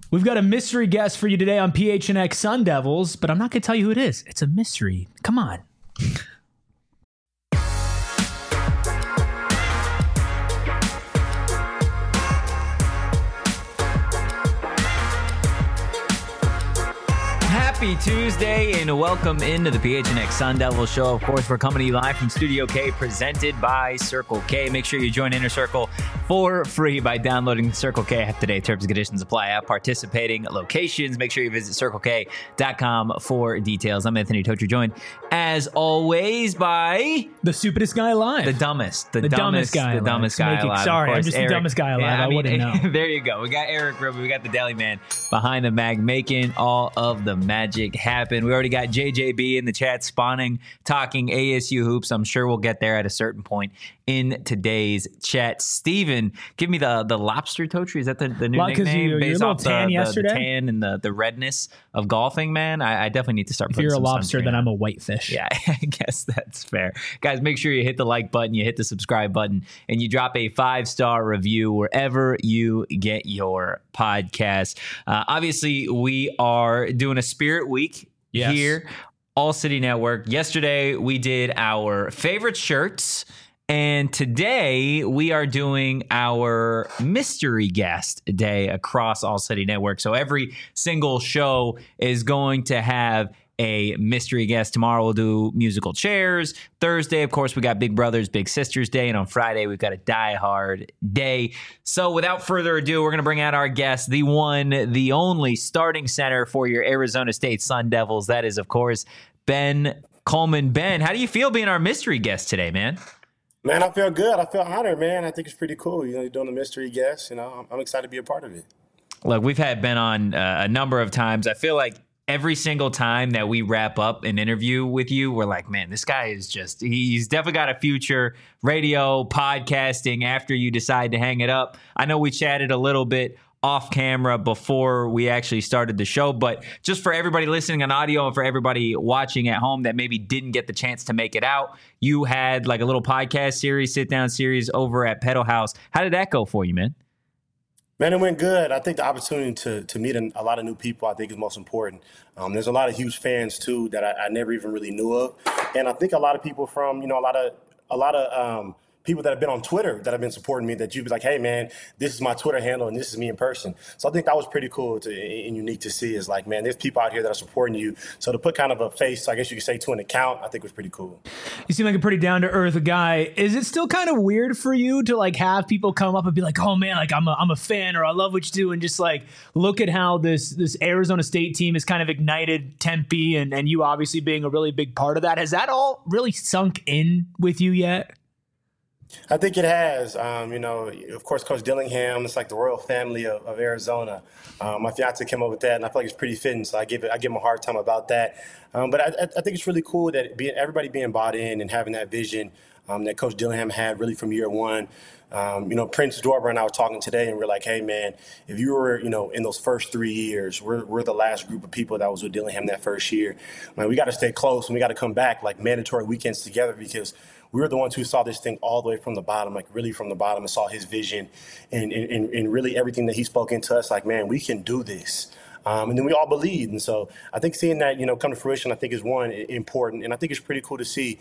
We've got a mystery guest for you today on PHNX Sun Devils, but I'm not going to tell you who it is. It's a mystery. Come on. Happy Tuesday and welcome into the PHNX Sun Devil Show. Of course, we're coming to you live from Studio K, presented by Circle K. Make sure you join Inner Circle for free by downloading the Circle K app today. Terms and conditions apply at participating locations. Make sure you visit CircleK.com for details. I'm Anthony Totri, joined as always by the stupidest guy alive. The dumbest guy alive. Sorry, I'm just Eric, the dumbest guy alive. Yeah, I wouldn't know. There you go. We got Eric Rubin. We got the Deli Man behind the mag, making all of the magic happen. We already got JJB in the chat spawning, talking ASU hoops. I'm sure we'll get there at a certain point in today's chat. Steven, give me the lobster Totri. Is that the new nickname? Based off tan yesterday? The tan and the redness of golfing, man. I definitely need to start putting some If you're a lobster, then I'm a whitefish. Yeah, I guess that's fair. Guys, make sure you hit the like button, you hit the subscribe button, and you drop a 5-star review wherever you get your podcast. Obviously, we are doing a Spirit Week here, All City Network. Yesterday, we did our favorite shirts. And today we are doing our mystery guest day across All City Network. So every single show is going to have a mystery guest. Tomorrow we'll do musical chairs. Thursday, of course, we got Big Brothers, Big Sisters Day. And on Friday, we've got a Die Hard Day. So without further ado, we're going to bring out our guest, the one, the only starting center for your Arizona State Sun Devils. That is, of course, Ben Coleman. Ben, how do you feel being our mystery guest today, man? Man, I feel good. I feel honored, man. I think it's pretty cool. You're doing a mystery guest. I'm excited to be a part of it. Look, we've had Ben on a number of times. I feel like every single time that we wrap up an interview with you, we're like, man, this guy is he's definitely got a future radio, podcasting after you decide to hang it up. I know we chatted a little bit off camera before we actually started the show, but just for everybody listening on audio and for everybody watching at home that maybe didn't get the chance to make it out, you had like a little podcast series, sit down series over at Pedal House. How did that go for you, man? Man, it went good. I think the opportunity to meet a lot of new people, I think, is most important. There's a lot of huge fans too that I never even really knew of, and I think a lot of people from a lot of people that have been on Twitter that have been supporting me, that you'd be like, hey, man, this is my Twitter handle and this is me in person. So I think that was pretty cool and unique to see, is like, man, there's people out here that are supporting you. So to put kind of a face, I guess you could say, to an account, I think was pretty cool. You seem like a pretty down-to-earth guy. Is it still kind of weird for you to like have people come up and be like, oh, man, like I'm a fan, or I love what you do, and just like look at how this Arizona State team has kind of ignited Tempe, and you obviously being a really big part of that. Has that all really sunk in with you yet? I think it has. Of course, Coach Dillingham, it's like the royal family of Arizona. My fiance came up with that, and I feel like it's pretty fitting, so I give him a hard time about that. But I think it's really cool that everybody being bought in and having that vision that Coach Dillingham had really from year one. Prince Dorber and I were talking today, and we're like, hey, man, if you were, in those first 3 years, we're the last group of people that was with Dillingham that first year. Man, we got to stay close, and we got to come back like mandatory weekends together, because we were the ones who saw this thing all the way from the bottom, like really from the bottom, and saw his vision and really everything that he spoke into us, like, man, we can do this. And then we all believed. And so I think seeing that, come to fruition, I think is one, important. And I think it's pretty cool to see.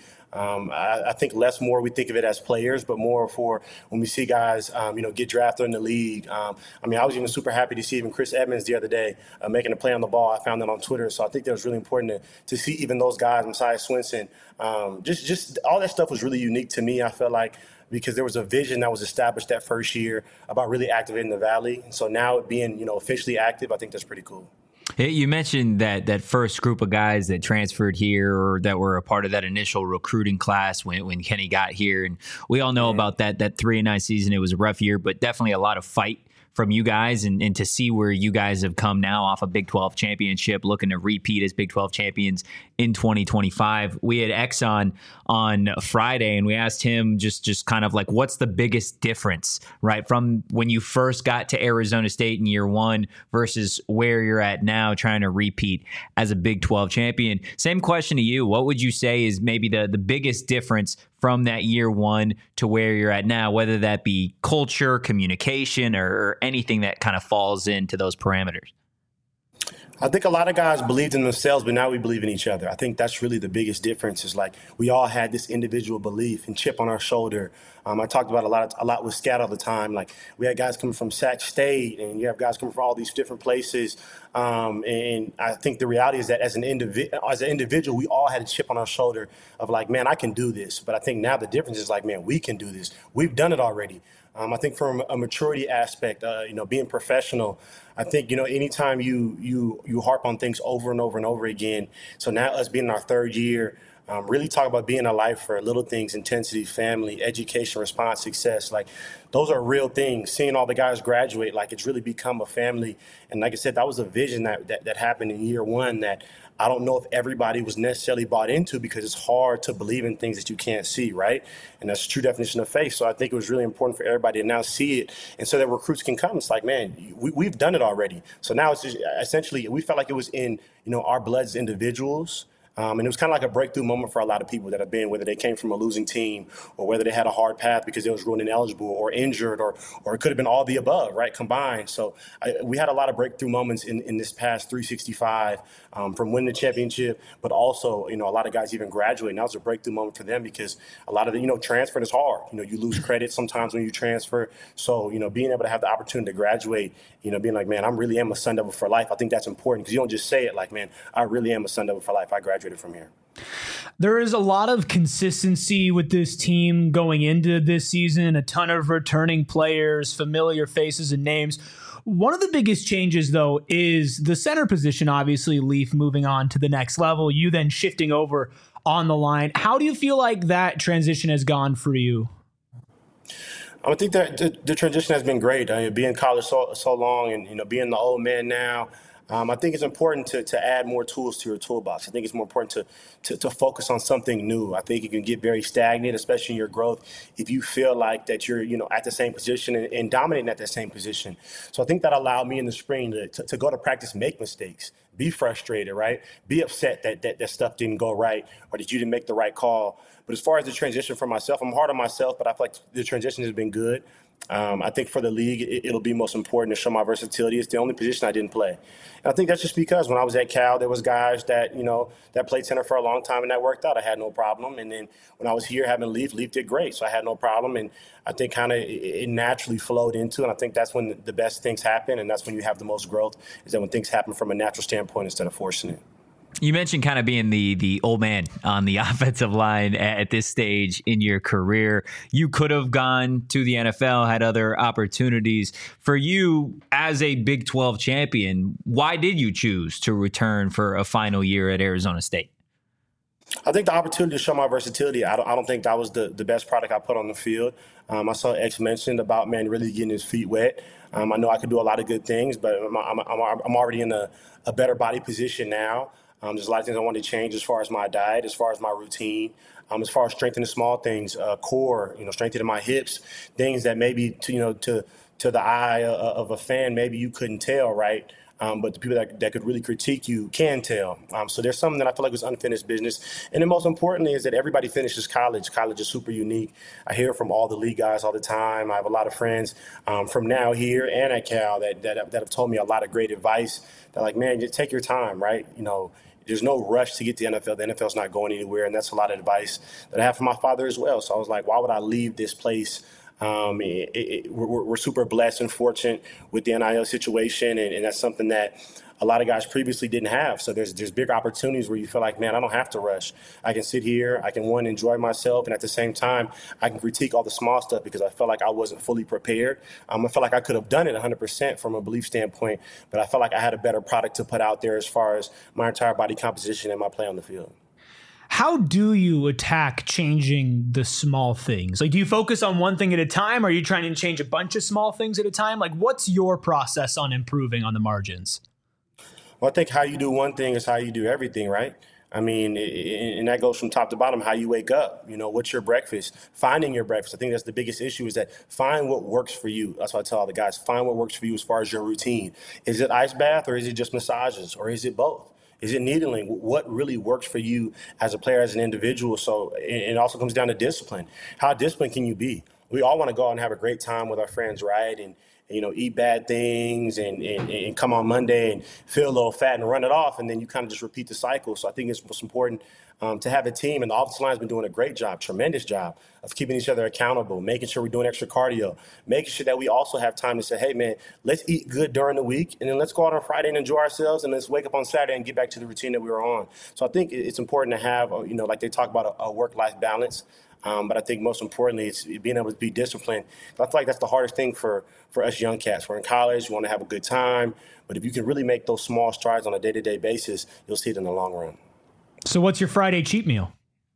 I think less more we think of it as players, but more for when we see guys, get drafted in the league. I was even super happy to see even Chris Edmonds the other day making a play on the ball. I found that on Twitter. So I think that was really important to see even those guys, Messiah Swinson. Just all that stuff was really unique to me, I felt like, because there was a vision that was established that first year about really activating the Valley. And so now it being, officially active, I think that's pretty cool. Hey, you mentioned that first group of guys that transferred here, or that were a part of that initial recruiting class when Kenny got here. And we all know about that 3-9 season. It was a rough year, but definitely a lot of fight from you guys, and to see where you guys have come now off a Big 12 championship, looking to repeat as Big 12 champions in 2025. We had Exxon on Friday, and we asked him just kind of like, what's the biggest difference, right, from when you first got to Arizona State in year one versus where you're at now trying to repeat as a Big 12 champion? Same question to you. What would you say is maybe the biggest difference from that year one to where you're at now, whether that be culture, communication, or anything that kind of falls into those parameters? I think a lot of guys believed in themselves, but now we believe in each other. I think that's really the biggest difference is like we all had this individual belief and chip on our shoulder. I talked about a lot with Scat all the time. Like we had guys coming from Sac State, and you have guys coming from all these different places. And I think the reality is that as an individual, we all had a chip on our shoulder of like, man, I can do this. But I think now the difference is like, man, we can do this. We've done it already. I think from a maturity aspect, being professional, I think, anytime you harp on things over and over and over again. So now us being in our third year, really talk about being a lifer, little things, intensity, family, education, response, success. Like those are real things. Seeing all the guys graduate, like it's really become a family. And like I said, that was a vision that happened in year one that I don't know if everybody was necessarily bought into because it's hard to believe in things that you can't see, right? And that's the true definition of faith. So I think it was really important for everybody to now see it. And so that recruits can come. It's like, man, we've done it already. So now it's just essentially, we felt like it was in, our blood as individuals. And it was kind of like a breakthrough moment for a lot of people that have been, whether they came from a losing team or whether they had a hard path because they was ruled ineligible or injured or it could have been all the above, right, combined. So we had a lot of breakthrough moments in this past 365 from winning the championship, but also, a lot of guys even graduating. That was a breakthrough moment for them because a lot of the, transferring is hard. You lose credit sometimes when you transfer. So, being able to have the opportunity to graduate, being like, man, I really am a Sun Devil for life. I think that's important because you don't just say it like, man, I really am a Sun Devil for life. I graduated from here. There is a lot of consistency with this team going into this season, a ton of returning players, familiar faces and names. One of the biggest changes, though, is the center position, obviously, Leaf moving on to the next level, you then shifting over on the line. How do you feel like that transition has gone for you? I think that the transition has been great. Being in college so long and, being the old man now, I think it's important to add more tools to your toolbox. I think it's more important to focus on something new. I think you can get very stagnant, especially in your growth, if you feel like that you're, at the same position and dominating at that same position. So I think that allowed me in the spring to go to practice, make mistakes, be frustrated, right? Be upset that stuff didn't go right or that you didn't make the right call. But as far as the transition for myself, I'm hard on myself, but I feel like the transition has been good. I think for the league, it'll be most important to show my versatility. It's the only position I didn't play. And I think that's just because when I was at Cal, there was guys that, that played center for a long time and that worked out. I had no problem. And then when I was here having Leaf did great. So I had no problem. And I think kind of it naturally flowed into. And I think that's when the best things happen. And that's when you have the most growth, is that when things happen from a natural standpoint instead of forcing it. You mentioned kind of being the old man on the offensive line at this stage in your career. You could have gone to the NFL, had other opportunities. For you, as a Big 12 champion, why did you choose to return for a final year at Arizona State? I think the opportunity to show my versatility, I don't think that was the best product I put on the field. I saw X mentioned about, man, really getting his feet wet. I know I could do a lot of good things, but I'm already in a better body position now. There's a lot of things I want to change as far as my diet, as far as my routine, as far as strengthening small things, core, strengthening my hips, things that maybe to the eye of a fan, maybe you couldn't tell, right? But the people that could really critique you can tell. So there's something that I feel like was unfinished business. And then most importantly is that everybody finishes college. College is super unique. I hear from all the league guys all the time. I have a lot of friends from now here and at Cal that have told me a lot of great advice. They're like, man, just take your time, right? There's no rush to get to the NFL. The NFL's not going anywhere, and that's a lot of advice that I have from my father as well. So I was like, why would I leave this place? We're super blessed and fortunate with the NIL situation, and that's something that a lot of guys previously didn't have. So there's big opportunities where you feel like, man, I don't have to rush. I can sit here, I can, enjoy myself, and at the same time, I can critique all the small stuff because I felt like I wasn't fully prepared. I felt like I could have done it 100% from a belief standpoint, but I felt like I had a better product to put out there as far as my entire body composition and my play on the field. How do you attack changing the small things? Like, do you focus on one thing at a time? Or are you trying to change a bunch of small things at a time? Like, what's your process on improving on the margins? Well, I think how you do one thing is how you do everything, right? I mean, and that goes from top to bottom, how you wake up, what's your breakfast, finding your breakfast. I think that's the biggest issue, is that find what works for you. That's what I tell all the guys, find what works for you as far as your routine. Is it ice bath, or is it just massages, or is it both? Is it needling? What really works for you as a player, as an individual? So it also comes down to discipline. How disciplined can you be? We all want to go out and have a great time with our friends, right? And eat bad things and come on Monday and feel a little fat and run it off, and then you kind of just repeat the cycle. So I think it's most important to have a team, and the offensive line has been doing a great job, tremendous job of keeping each other accountable, making sure we're doing extra cardio, making sure that we also have time to say, hey, man, let's eat good during the week, and then let's go out on Friday and enjoy ourselves, and let's wake up on Saturday and get back to the routine that we were on. So I think it's important to have, like they talk about a work-life balance. But I think most importantly, it's being able to be disciplined. I feel like that's the hardest thing for us young cats. We're in college, we want to have a good time. But if you can really make those small strides on a day-to-day basis, you'll see it in the long run. So what's your Friday cheat meal?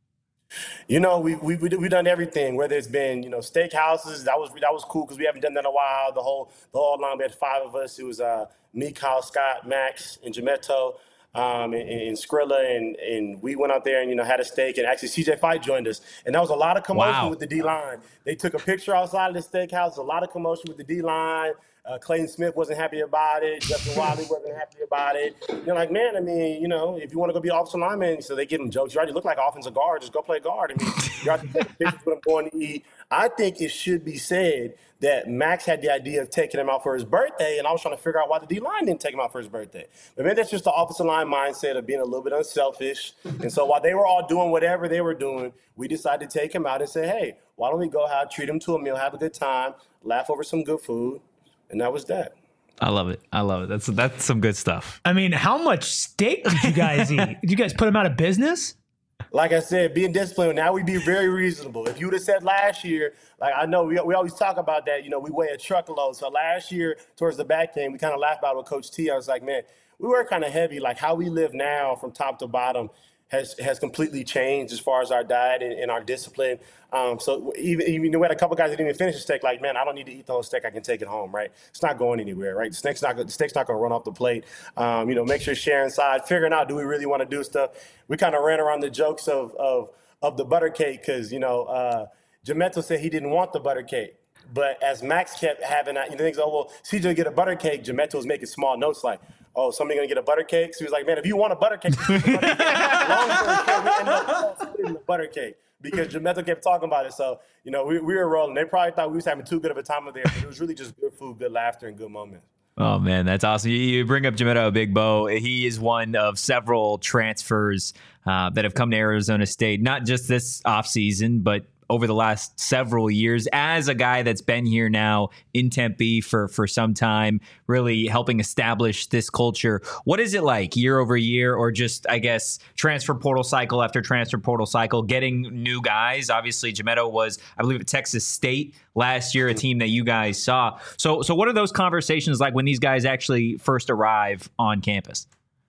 We've done everything, whether it's been, steakhouses. That was cool because we haven't done that in a while. The whole line, we had 5 of us. It was me, Kyle, Scott, Max, and Jametto. And Skrilla, and we went out there and had a steak, and actually CJ Fight joined us, and there was a lot of commotion with the D-line. They took a picture outside of the steakhouse. A lot of commotion with the D-line. Clayton Smith wasn't happy about it. Justin Wiley wasn't happy about it. They're like, man, if you want to go be offensive lineman, so they give him jokes. You already look like offensive guard. Just go play guard. You have to take pictures with him going to eat. I think it should be said that Max had the idea of taking him out for his birthday, and I was trying to figure out why the D-line didn't take him out for his birthday. But maybe that's just the offensive line mindset of being a little bit unselfish. And so while they were all doing whatever they were doing, we decided to take him out and say, hey, why don't we go treat him to a meal, have a good time, laugh over some good food, and that was that. I love it. That's some good stuff. How much steak did you guys eat? Did you guys put him out of business? Like I said, being disciplined, now we be very reasonable. If you would have said last year, like I know we always talk about that, we weigh a truckload. So last year, towards the back end, we kind of laughed about it with Coach T. I was like, man, we were kind of heavy. Like how we live now from top to bottom has completely changed as far as our diet and our discipline. So even we had a couple guys that didn't even finish the steak. Like, man, I don't need to eat the whole steak. I can take it home, right? It's not going anywhere, right? The steak's not going to run off the plate. Make sure share inside, figuring out, do we really want to do stuff? We kind of ran around the jokes of the butter cake because, Jametto said he didn't want the butter cake. But as Max kept having that, thinks, CJ get a butter cake. Jametto was making small notes like, somebody going to get a butter cake? So he was like, man, if you want a butter cake, long story short, we ended up splitting the butter cake because Jametto kept talking about it. So, we were rolling. They probably thought we was having too good of a time there, but it was really just good food, good laughter, and good moments. Oh, man, that's awesome. You bring up Jametto Big Bo. He is one of several transfers that have come to Arizona State, not just this offseason, but over the last several years as a guy that's been here now in Tempe for some time, really helping establish this culture. What is it like year over year, or just, I guess, transfer portal cycle after transfer portal cycle, getting new guys? Obviously, Jametto was, I believe, at Texas State last year, a team that you guys saw. So what are those conversations like when these guys actually first arrive on campus?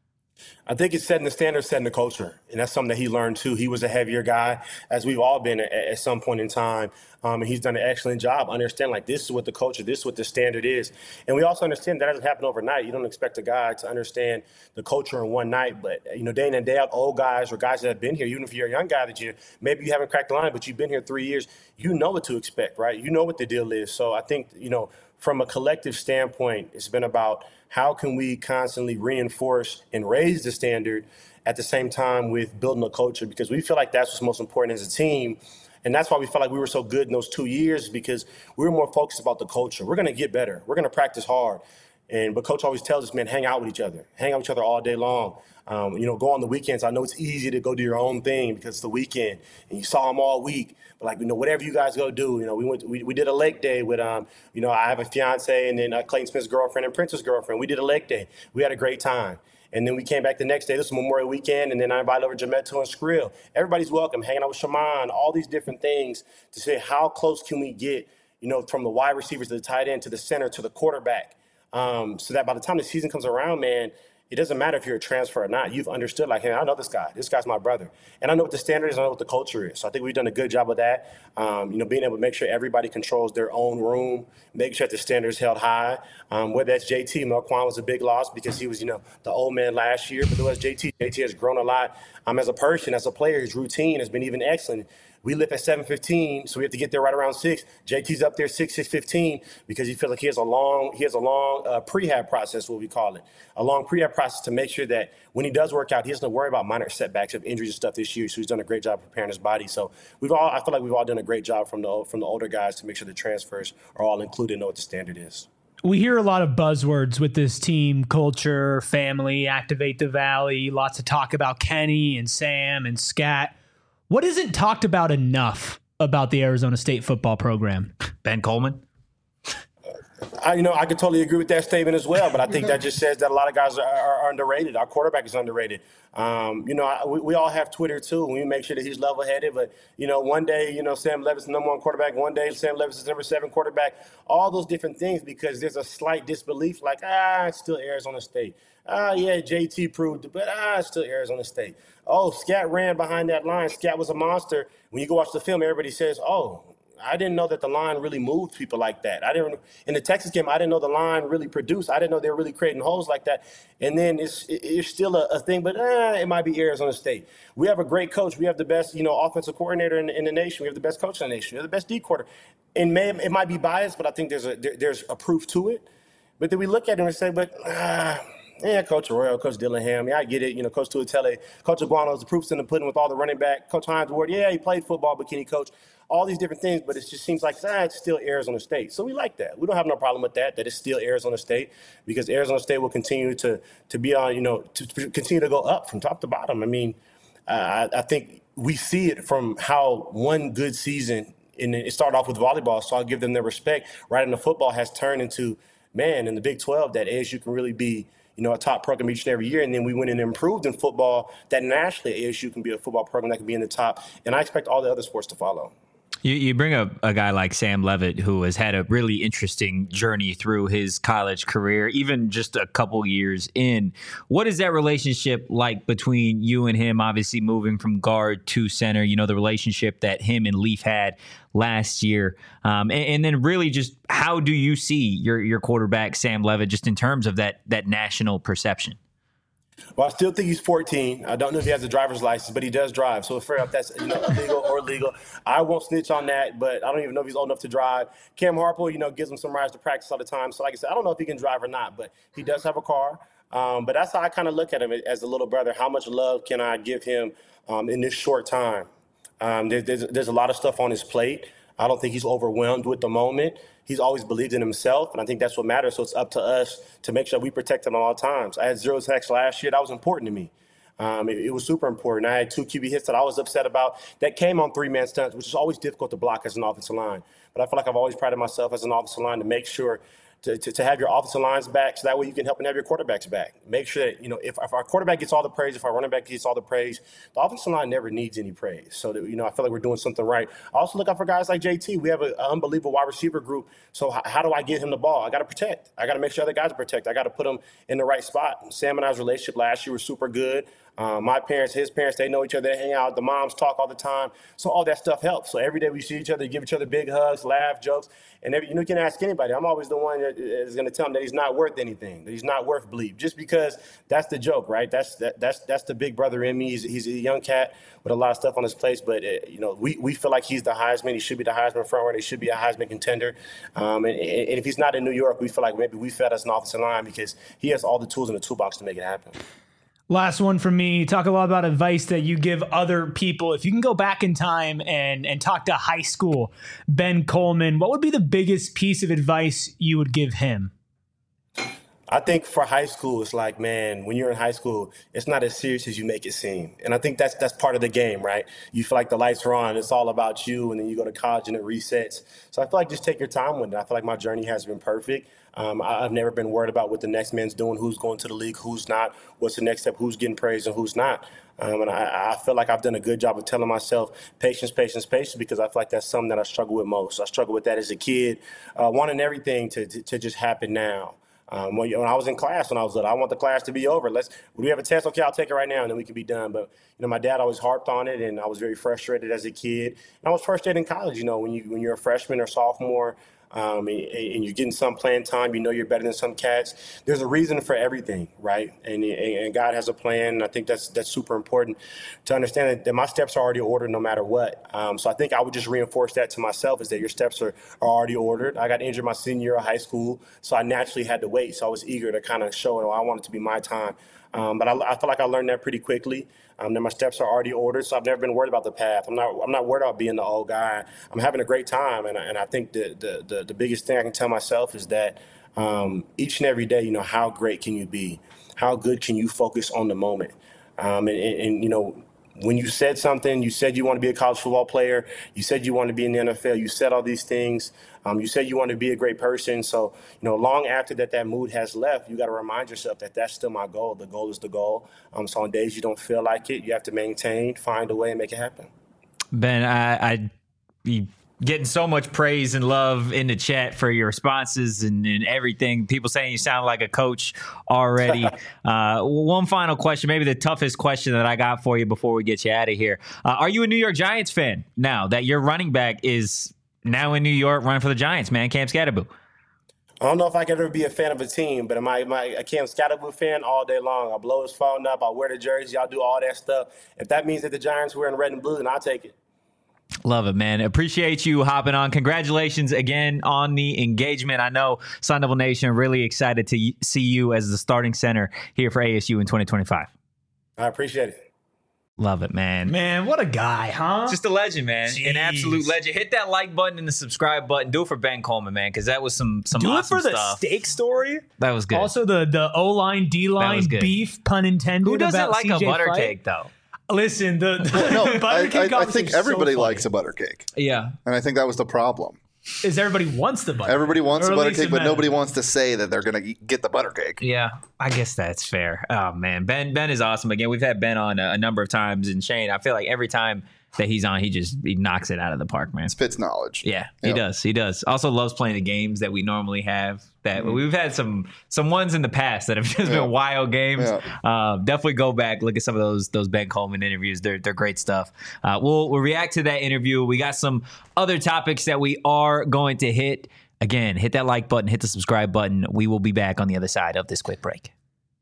I think it's setting the standard, setting the culture. And that's something that he learned, too. He was a heavier guy, as we've all been at some point in time. And he's done an excellent job understanding, like, this is what the culture, this is what the standard is. And we also understand that doesn't happen overnight. You don't expect a guy to understand the culture in one night. But, day in and day out, old guys or guys that have been here, even if you're a young guy that maybe you haven't cracked the line, but you've been here 3 years, you know what to expect, right? You know what the deal is. So I think, from a collective standpoint, it's been about how can we constantly reinforce and raise the standard at the same time with building a culture, because we feel like that's what's most important as a team. And that's why we felt like we were so good in those 2 years, because we were more focused about the culture. We're going to get better. We're going to practice hard. But Coach always tells us, man, hang out with each other. Hang out with each other all day long. Go on the weekends. I know it's easy to go do your own thing because it's the weekend and you saw them all week. But whatever you guys go do, we did a lake day with, I have a fiance and then Clayton Smith's girlfriend and Prince's girlfriend. We did a lake day. We had a great time. And then we came back the next day. This was Memorial Weekend. And then I invited over Jametto and Skrill. Everybody's welcome, hanging out with Shaman, all these different things to say how close can we get, from the wide receivers to the tight end to the center to the quarterback. So that by the time the season comes around, man, it doesn't matter if you're a transfer or not. You've understood, like, hey, I know this guy. This guy's my brother. And I know what the standard is. I know what the culture is. So I think we've done a good job of that. Being able to make sure everybody controls their own room, making sure that the standard is held high. Whether that's JT, Melquan was a big loss because he was, the old man last year. But there was JT. JT has grown a lot as a person, as a player. His routine has been even excellent. We live at 7:15, so we have to get there right around 6. JT's up there 6:15 because he feels like he has a long prehab process, what we call it, a long prehab process to make sure that when he does work out, he doesn't worry about minor setbacks of injuries and stuff this year. So he's done a great job preparing his body. So I feel like we've all done a great job from the older guys to make sure the transfers are all included and know what the standard is. We hear a lot of buzzwords with this team: culture, family, activate the valley. Lots of talk about Kenny and Sam and Scat. What isn't talked about enough about the Arizona State football program? Ben Coleman? I could totally agree with that statement as well, but I think that just says that a lot of guys are underrated. Our quarterback is underrated. We all have Twitter too. We make sure that he's level-headed, but one day, Sam Levis is the number 1 quarterback. One day, Sam Levis is number 7 quarterback. All those different things because there's a slight disbelief, like it's still Arizona State. Yeah, JT proved it, but it's still Arizona State. Oh, Scat ran behind that line. Scat was a monster. When you go watch the film, everybody says, oh, I didn't know that the line really moved people like that. In the Texas game, I didn't know the line really produced. I didn't know they were really creating holes like that. And then it's still a thing, but it might be Arizona State. We have a great coach. We have the best, offensive coordinator in the nation. We have the best coach in the nation. We have the best D quarter. And it might be biased, but I think there's a proof to it. But then we look at him and say, Coach Arroyo, Coach Dillingham, I get it. Coach Tuatele, Coach Aguano's the proof's in the pudding with all the running back. Coach Hines Ward, he played football, but can he coach? All these different things, but it just seems like it's still Arizona State. So we like that. We don't have no problem with that it's still Arizona State because Arizona State will continue to be on, to continue to go up from top to bottom. I mean, I think we see it from how one good season, and it started off with volleyball, so I'll give them their respect, right into football has turned into, in the Big 12, that ASU can really be a top program each and every year. And then we went and improved in football that nationally ASU can be a football program that can be in the top. And I expect all the other sports to follow. You bring up a guy like Sam Levitt, who has had a really interesting journey through his college career, even just a couple years in. What is that relationship like between you and him, obviously moving from guard to center, the relationship that him and Leaf had last year? And then really just how do you see your quarterback, Sam Levitt, just in terms of that national perception? Well, I still think he's 14. I don't know if he has a driver's license, but he does drive. So fair enough, that's illegal or illegal. I won't snitch on that, but I don't even know if he's old enough to drive. Cam Harple, gives him some rides to practice all the time. So like I said, I don't know if he can drive or not, but he does have a car. But that's how I kind of look at him as a little brother. How much love can I give him in this short time? There's a lot of stuff on his plate. I don't think he's overwhelmed with the moment. He's always believed in himself, and I think that's what matters. So it's up to us to make sure we protect him at all times. I had 0 sacks last year. That was important to me. It was super important. I had 2 QB hits that I was upset about that came on 3-man stunts, which is always difficult to block as an offensive line. But I feel like I've always prided myself as an offensive line to make sure to have your offensive lines back so that way you can help and have your quarterbacks back. Make sure that, if our quarterback gets all the praise, if our running back gets all the praise, the offensive line never needs any praise. So that, I feel like we're doing something right. I also look out for guys like JT. We have an unbelievable wide receiver group. So how do I get him the ball? I got to protect. I got to make sure other guys are protected. I got to put them in the right spot. Sam and I's relationship last year was super good. My parents, his parents, they know each other. They hang out. The moms talk all the time. So all that stuff helps. So every day we see each other, give each other big hugs, laugh, jokes. And you can ask anybody. I'm always the one that is going to tell him that he's not worth anything, that he's not worth bleep, just because that's the joke, right? That's the big brother in me. He's a young cat with a lot of stuff on his plate. But, we feel like he's the Heisman. He should be the Heisman front runner. He should be a Heisman contender. And if he's not in New York, we feel like maybe we fed us an offensive line because he has all the tools in the toolbox to make it happen. Last one from me. Talk a lot about advice that you give other people. If you can go back in time and talk to high school Ben Coleman, what would be the biggest piece of advice you would give him? I think for high school, it's like, man, when you're in high school, it's not as serious as you make it seem. And I think that's part of the game, right? You feel like the lights are on, it's all about you, and then you go to college and it resets. So I feel like just take your time with it. I feel like my journey has been perfect. I've never been worried about what the next man's doing, who's going to the league, who's not, what's the next step, who's getting praised and who's not. And I feel like I've done a good job of telling myself patience, patience, patience, because I feel like that's something that I struggle with most. I struggled with that as a kid, wanting everything to just happen now. When I was in class, when I was little, I want the class to be over. Would we have a test? Okay, I'll take it right now, and then we can be done. But my dad always harped on it, and I was very frustrated as a kid. And I was frustrated in college. When you're a freshman or sophomore, and you're getting some playing time. You know you're better than some cats. There's a reason for everything, right? And God has a plan. And I think that's super important to understand that my steps are already ordered no matter what. So I think I would just reinforce that to myself, is that your steps are already ordered. I got injured my senior year of high school, so I naturally had to wait. So I was eager to kind of show it. I wanted to be my time. But I feel like I learned that pretty quickly. That my steps are already ordered, so I've never been worried about the path. I'm not worried about being the old guy. I'm having a great time, and I think the biggest thing I can tell myself is that each and every day, how great can you be? How good can you focus on the moment? And when you said something, you said you want to be a college football player, you said you want to be in the NFL, you said all these things, you said you want to be a great person. So, long after that mood has left, you got to remind yourself that that's still my goal. The goal is the goal. So on days you don't feel like it, you have to maintain, find a way, and make it happen. Ben, I getting so much praise and love in the chat for your responses and everything. People saying you sound like a coach already. One final question, maybe the toughest question that I got for you before we get you out of here. Are you a New York Giants fan now that your running back is now in New York running for the Giants, man? Cam Skattebo. I don't know if I could ever be a fan of a team, but am I a Cam Skattebo fan all day long? I'll blow his phone up. I'll wear the jersey. I'll do all that stuff. If that means that the Giants were in red and blue, then I'll take it. Love it, man. Appreciate you hopping on. Congratulations again on the engagement. I know Sun Devil Nation really excited to see you as the starting center here for ASU in 2025. I appreciate it. Love it, man. Man, what a guy, huh? Just a legend, man. Jeez. An absolute legend. Hit that like button and the subscribe button. Do it for Ben Coleman, man, because that was some Do awesome it for stuff. the steak story. That was good. Also, the O-line, D-line beef, pun intended. Who doesn't about like CJ a butter Fight? cake, though? Listen, the butter I cake think is everybody so likes funny. a butter cake. Yeah. And I think that was the problem. Is everybody wants the butter? Everybody wants Or a at butter least cake, but in nobody wants to say that they're going to get the butter cake. Yeah, I guess that's fair. Oh, man. Ben is awesome. Again, we've had Ben on a number of times, and Shane, I feel like every time that he's on, he knocks it out of the park, man. Spits knowledge. Yeah, he does. He does. Also loves playing the games that we normally have. That we've had some ones in the past that have just been wild games. Yeah. Definitely go back, look at some of those Ben Coleman interviews. They're great stuff. We'll react to that interview. We got some other topics that we are going to hit. Again, hit that like button, hit the subscribe button. We will be back on the other side of this quick break.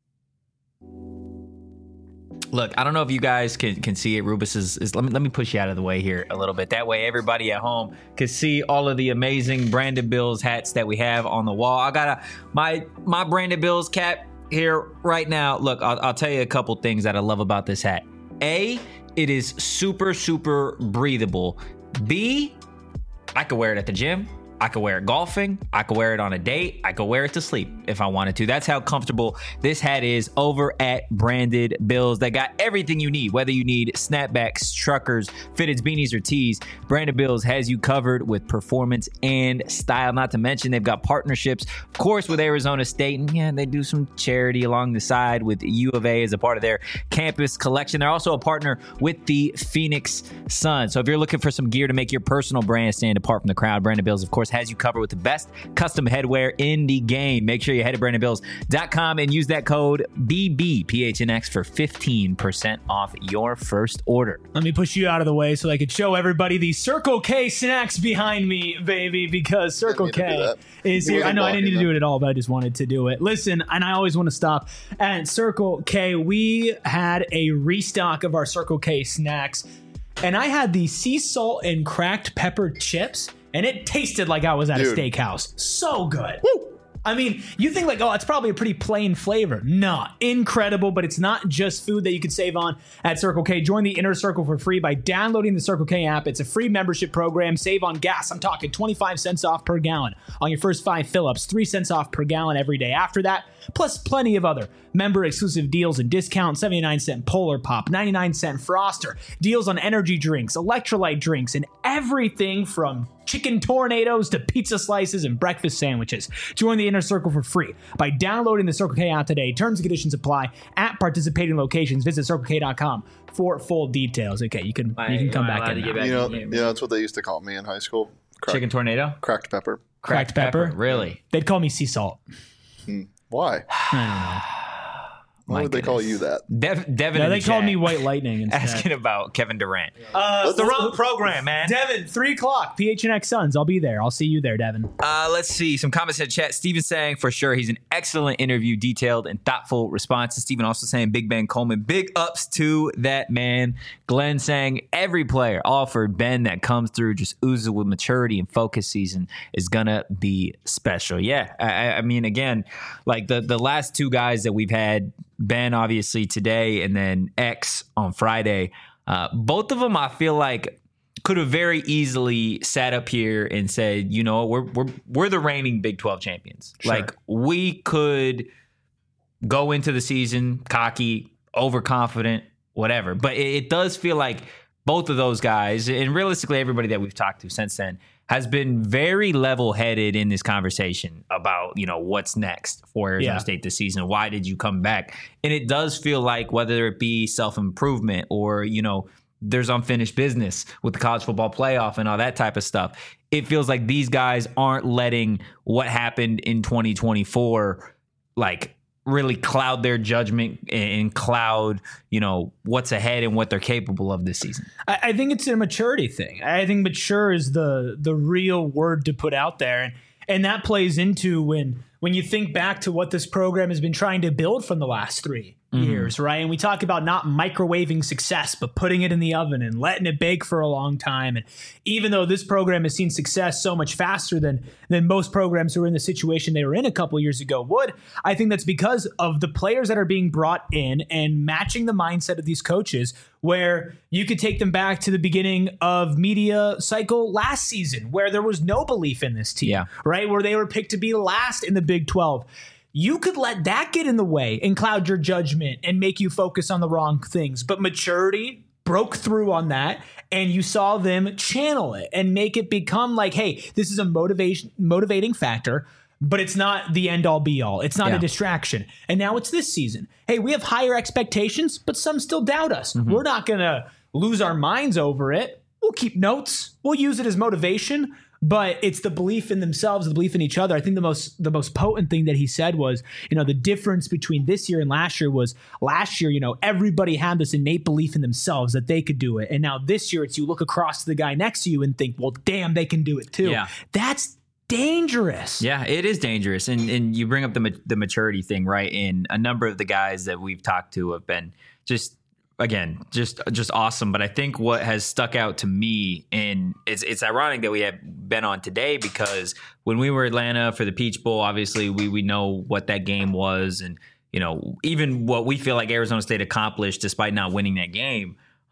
Look, I don't know if you guys can see it. Rubus is let me push you out of the way here a little bit. That way everybody at home can see all of the amazing Brandon Bills hats that we have on the wall. I got my Brandon Bills cap here right now. Look, I'll tell you a couple things that I love about this hat. A, it is super, super breathable. B, I could wear it at the gym. I could wear it golfing. I could wear it on a date. I could wear it to sleep if I wanted to. That's how comfortable this hat is over at Branded Bills. They got everything you need, whether you need snapbacks, truckers, fitteds, beanies, or tees. Branded Bills has you covered with performance and style. Not to mention they've got partnerships, of course, with Arizona State. And yeah, they do some charity along the side with U of A as a part of their campus collection. They're also a partner with the Phoenix Suns. So if you're looking for some gear to make your personal brand stand apart from the crowd, Branded Bills, of course, has you covered with the best custom headwear in the game. Make sure you head to BrandonBills.com and use that code BBPHNX for 15% off your first order. Let me push you out of the way so I could show everybody the Circle K snacks behind me, baby, because Circle K is here. I know I didn't need to do it at all, but I just wanted to do it. Listen, and I always want to stop at Circle K. We had a restock of our Circle K snacks, and I had the sea salt and cracked pepper chips, and it tasted like I was at a steakhouse. So good. Woo! I mean, you think like, oh, it's probably a pretty plain flavor. Nah, incredible, but it's not just food that you can save on at Circle K. Join the Inner Circle for free by downloading the Circle K app. It's a free membership program. Save on gas. I'm talking 25 cents off per gallon on your first 5 fill-ups, 3 cents off per gallon every day after that, plus plenty of other member-exclusive deals and discounts, 79-cent Polar Pop, 99-cent Froster, deals on energy drinks, electrolyte drinks, and everything from chicken tornadoes to pizza slices and breakfast sandwiches. Join the Inner Circle for free by downloading the Circle K app today. Terms and conditions apply at participating locations. Visit CircleK.com for full details. Okay, you can come back in now. You know, that's what they used to call me in high school. Chicken tornado? Cracked pepper. Cracked pepper? Really? They'd call me sea salt. Why? I don't know. Why would they call you that? Devin, No, they called me White Lightning instead. asking about Kevin Durant. It's the wrong program, man. Devin, 3 o'clock, PHNX Suns. I'll be there. I'll see you there, Devin. Let's see. Some comments in the chat. Steven saying, for sure, he's an excellent interview, detailed and thoughtful responses. Steven also saying, Big Ben Coleman, big ups to that man. Glenn saying, every player offered Ben that comes through just oozes with maturity and focus season is going to be special. Yeah. I mean, again, like the last 2 guys that we've had, Ben obviously today and then X on Friday, both of them I feel like could have very easily sat up here and said, you know, we're the reigning Big 12 champions. Sure. Like we could go into the season cocky, overconfident, whatever. But it does feel like both of those guys, and realistically everybody that we've talked to since then, has been very level-headed in this conversation about, you know, what's next for Arizona State this season. Why did you come back? And it does feel like whether it be self-improvement or, you know, there's unfinished business with the college football playoff and all that type of stuff, it feels like these guys aren't letting what happened in 2024, like, really cloud their judgment and cloud, you know, what's ahead and what they're capable of this season. I think it's a maturity thing. I think mature is the real word to put out there. And that plays into when you think back to what this program has been trying to build from the last 3 years, right? And we talk about not microwaving success, but putting it in the oven and letting it bake for a long time. And even though this program has seen success so much faster than most programs who were in the situation they were in a couple years ago would, I think that's because of the players that are being brought in and matching the mindset of these coaches, where you could take them back to the beginning of media cycle last season, where there was no belief in this team, right? Where they were picked to be last in the Big 12. You could let that get in the way and cloud your judgment and make you focus on the wrong things. But maturity broke through on that, and you saw them channel it and make it become like, hey, this is a motivating factor, but it's not the end all be all. It's not a distraction. And now it's this season. Hey, we have higher expectations, but some still doubt us. We're not going to lose our minds over it. We'll keep notes. We'll use it as motivation. But it's the belief in themselves, the belief in each other. I think the most potent thing that he said was, you know, the difference between this year and last year was last year, you know, everybody had this innate belief in themselves that they could do it. And now this year it's you look across to the guy next to you and think, well, damn, they can do it too. Yeah. That's dangerous. Yeah, it is dangerous. And you bring up the maturity thing, right? And a number of the guys that we've talked to have been just awesome. But I think what has stuck out to me, and it's ironic that we have Ben on today, because when we were in Atlanta for the Peach Bowl, obviously we know what that game was, and you know, even what we feel like Arizona State accomplished despite not winning that game.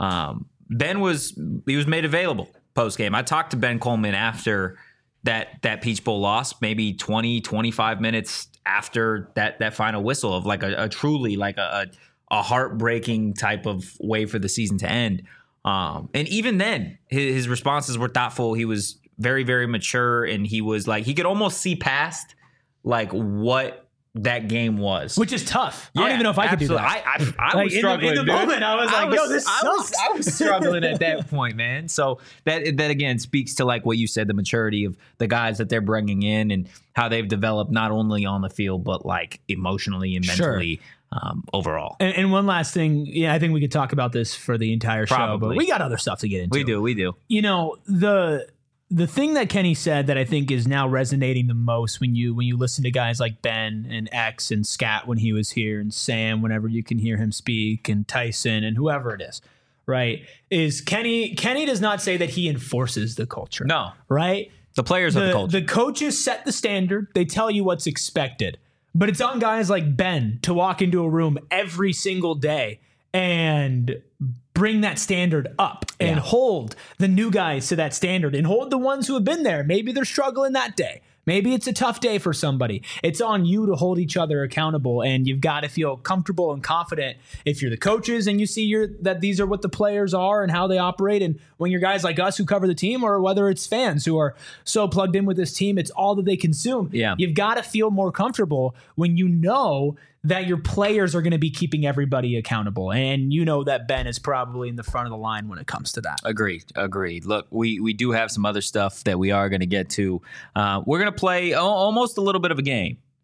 Ben was made available post game. I talked to Ben Coleman after that Peach Bowl loss, maybe 20, 25 minutes after that final whistle, of like a truly like a heartbreaking type of way for the season to end. And even then, his responses were thoughtful. He was very, very mature, and he was like, he could almost see past like what that game was, which is tough. I don't even know if I could do that. I was struggling in the moment. I was like, yo, this sucks. I was struggling at that point, man. So that again speaks to like what you said, the maturity of the guys that they're bringing in and how they've developed not only on the field but like emotionally and mentally. Overall. And one last thing, I think we could talk about this for the entire show, but we got other stuff to get into. We do. You know, the thing that Kenny said that I think is now resonating the most when you listen to guys like Ben and X and Scat when he was here, and Sam whenever you can hear him speak, and Tyson and whoever it is, right, is Kenny does not say that he enforces the culture. No. Right? The players of the culture. The coaches set the standard. They tell you what's expected. But it's on guys like Ben to walk into a room every single day and bring that standard up and hold the new guys to that standard and hold the ones who have been there. Maybe they're struggling that day. Maybe it's a tough day for somebody. It's on you to hold each other accountable, and you've got to feel comfortable and confident if you're the coaches and you see that these are what the players are and how they operate. And when you're guys like us who cover the team, or whether it's fans who are so plugged in with this team, it's all that they consume. Yeah. You've got to feel more comfortable when you know that your players are going to be keeping everybody accountable. And you know that Ben is probably in the front of the line when it comes to that. Agreed. Look, we do have some other stuff that we are going to get to. We're going to play almost a little bit of a game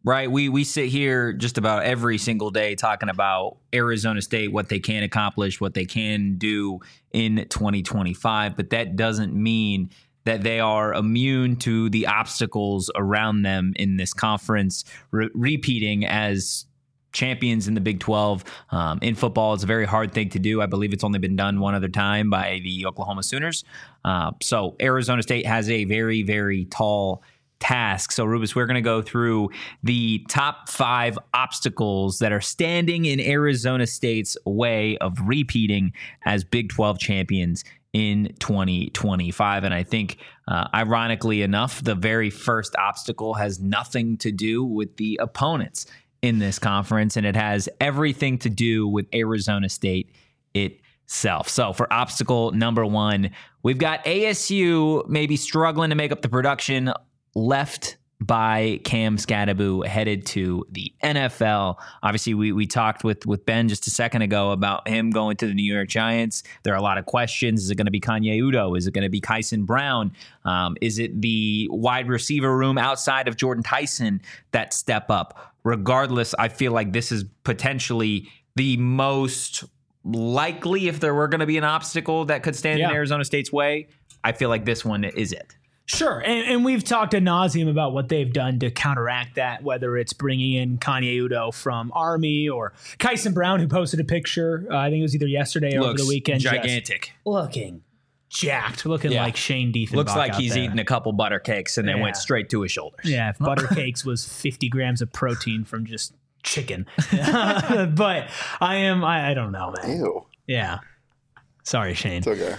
right? We sit here just about every single day talking about Arizona State, what they can accomplish, what they can do in 2025, but that doesn't mean that they are immune to the obstacles around them in this conference, repeating as champions in the Big 12. In football, it's a very hard thing to do. I believe it's only been done one other time by the Oklahoma Sooners. So Arizona State has a very, very tall task. So Rubus, we're going to go through the top 5 obstacles that are standing in Arizona State's way of repeating as Big 12 champions in 2025. And I think, ironically enough, the very first obstacle has nothing to do with the opponents in this conference, and it has everything to do with Arizona State itself. So for obstacle number 1, we've got ASU maybe struggling to make up the production left by Cam Skattebo headed to the NFL. Obviously, we talked with Ben just a second ago about him going to the New York Giants. There are a lot of questions. Is it going to be Kanye Udoh? Is it going to be Kyson Brown? Is it the wide receiver room outside of Jordan Tyson that step up? Regardless, I feel like this is potentially the most likely, if there were going to be an obstacle that could stand in Arizona State's way, I feel like this one is it. Sure, and we've talked ad nauseum about what they've done to counteract that, whether it's bringing in Kanye Udoh from Army or Kyson Brown, who posted a picture, I think it was either yesterday or over the weekend. Gigantic. Looking jacked, looking like Shane Diefenbach. Looks like he's eaten a couple butter cakes and then went straight to his shoulders. Yeah, if butter cakes was 50 grams of protein from just chicken. But I don't know, man. Ew. Yeah. Sorry, Shane. It's okay.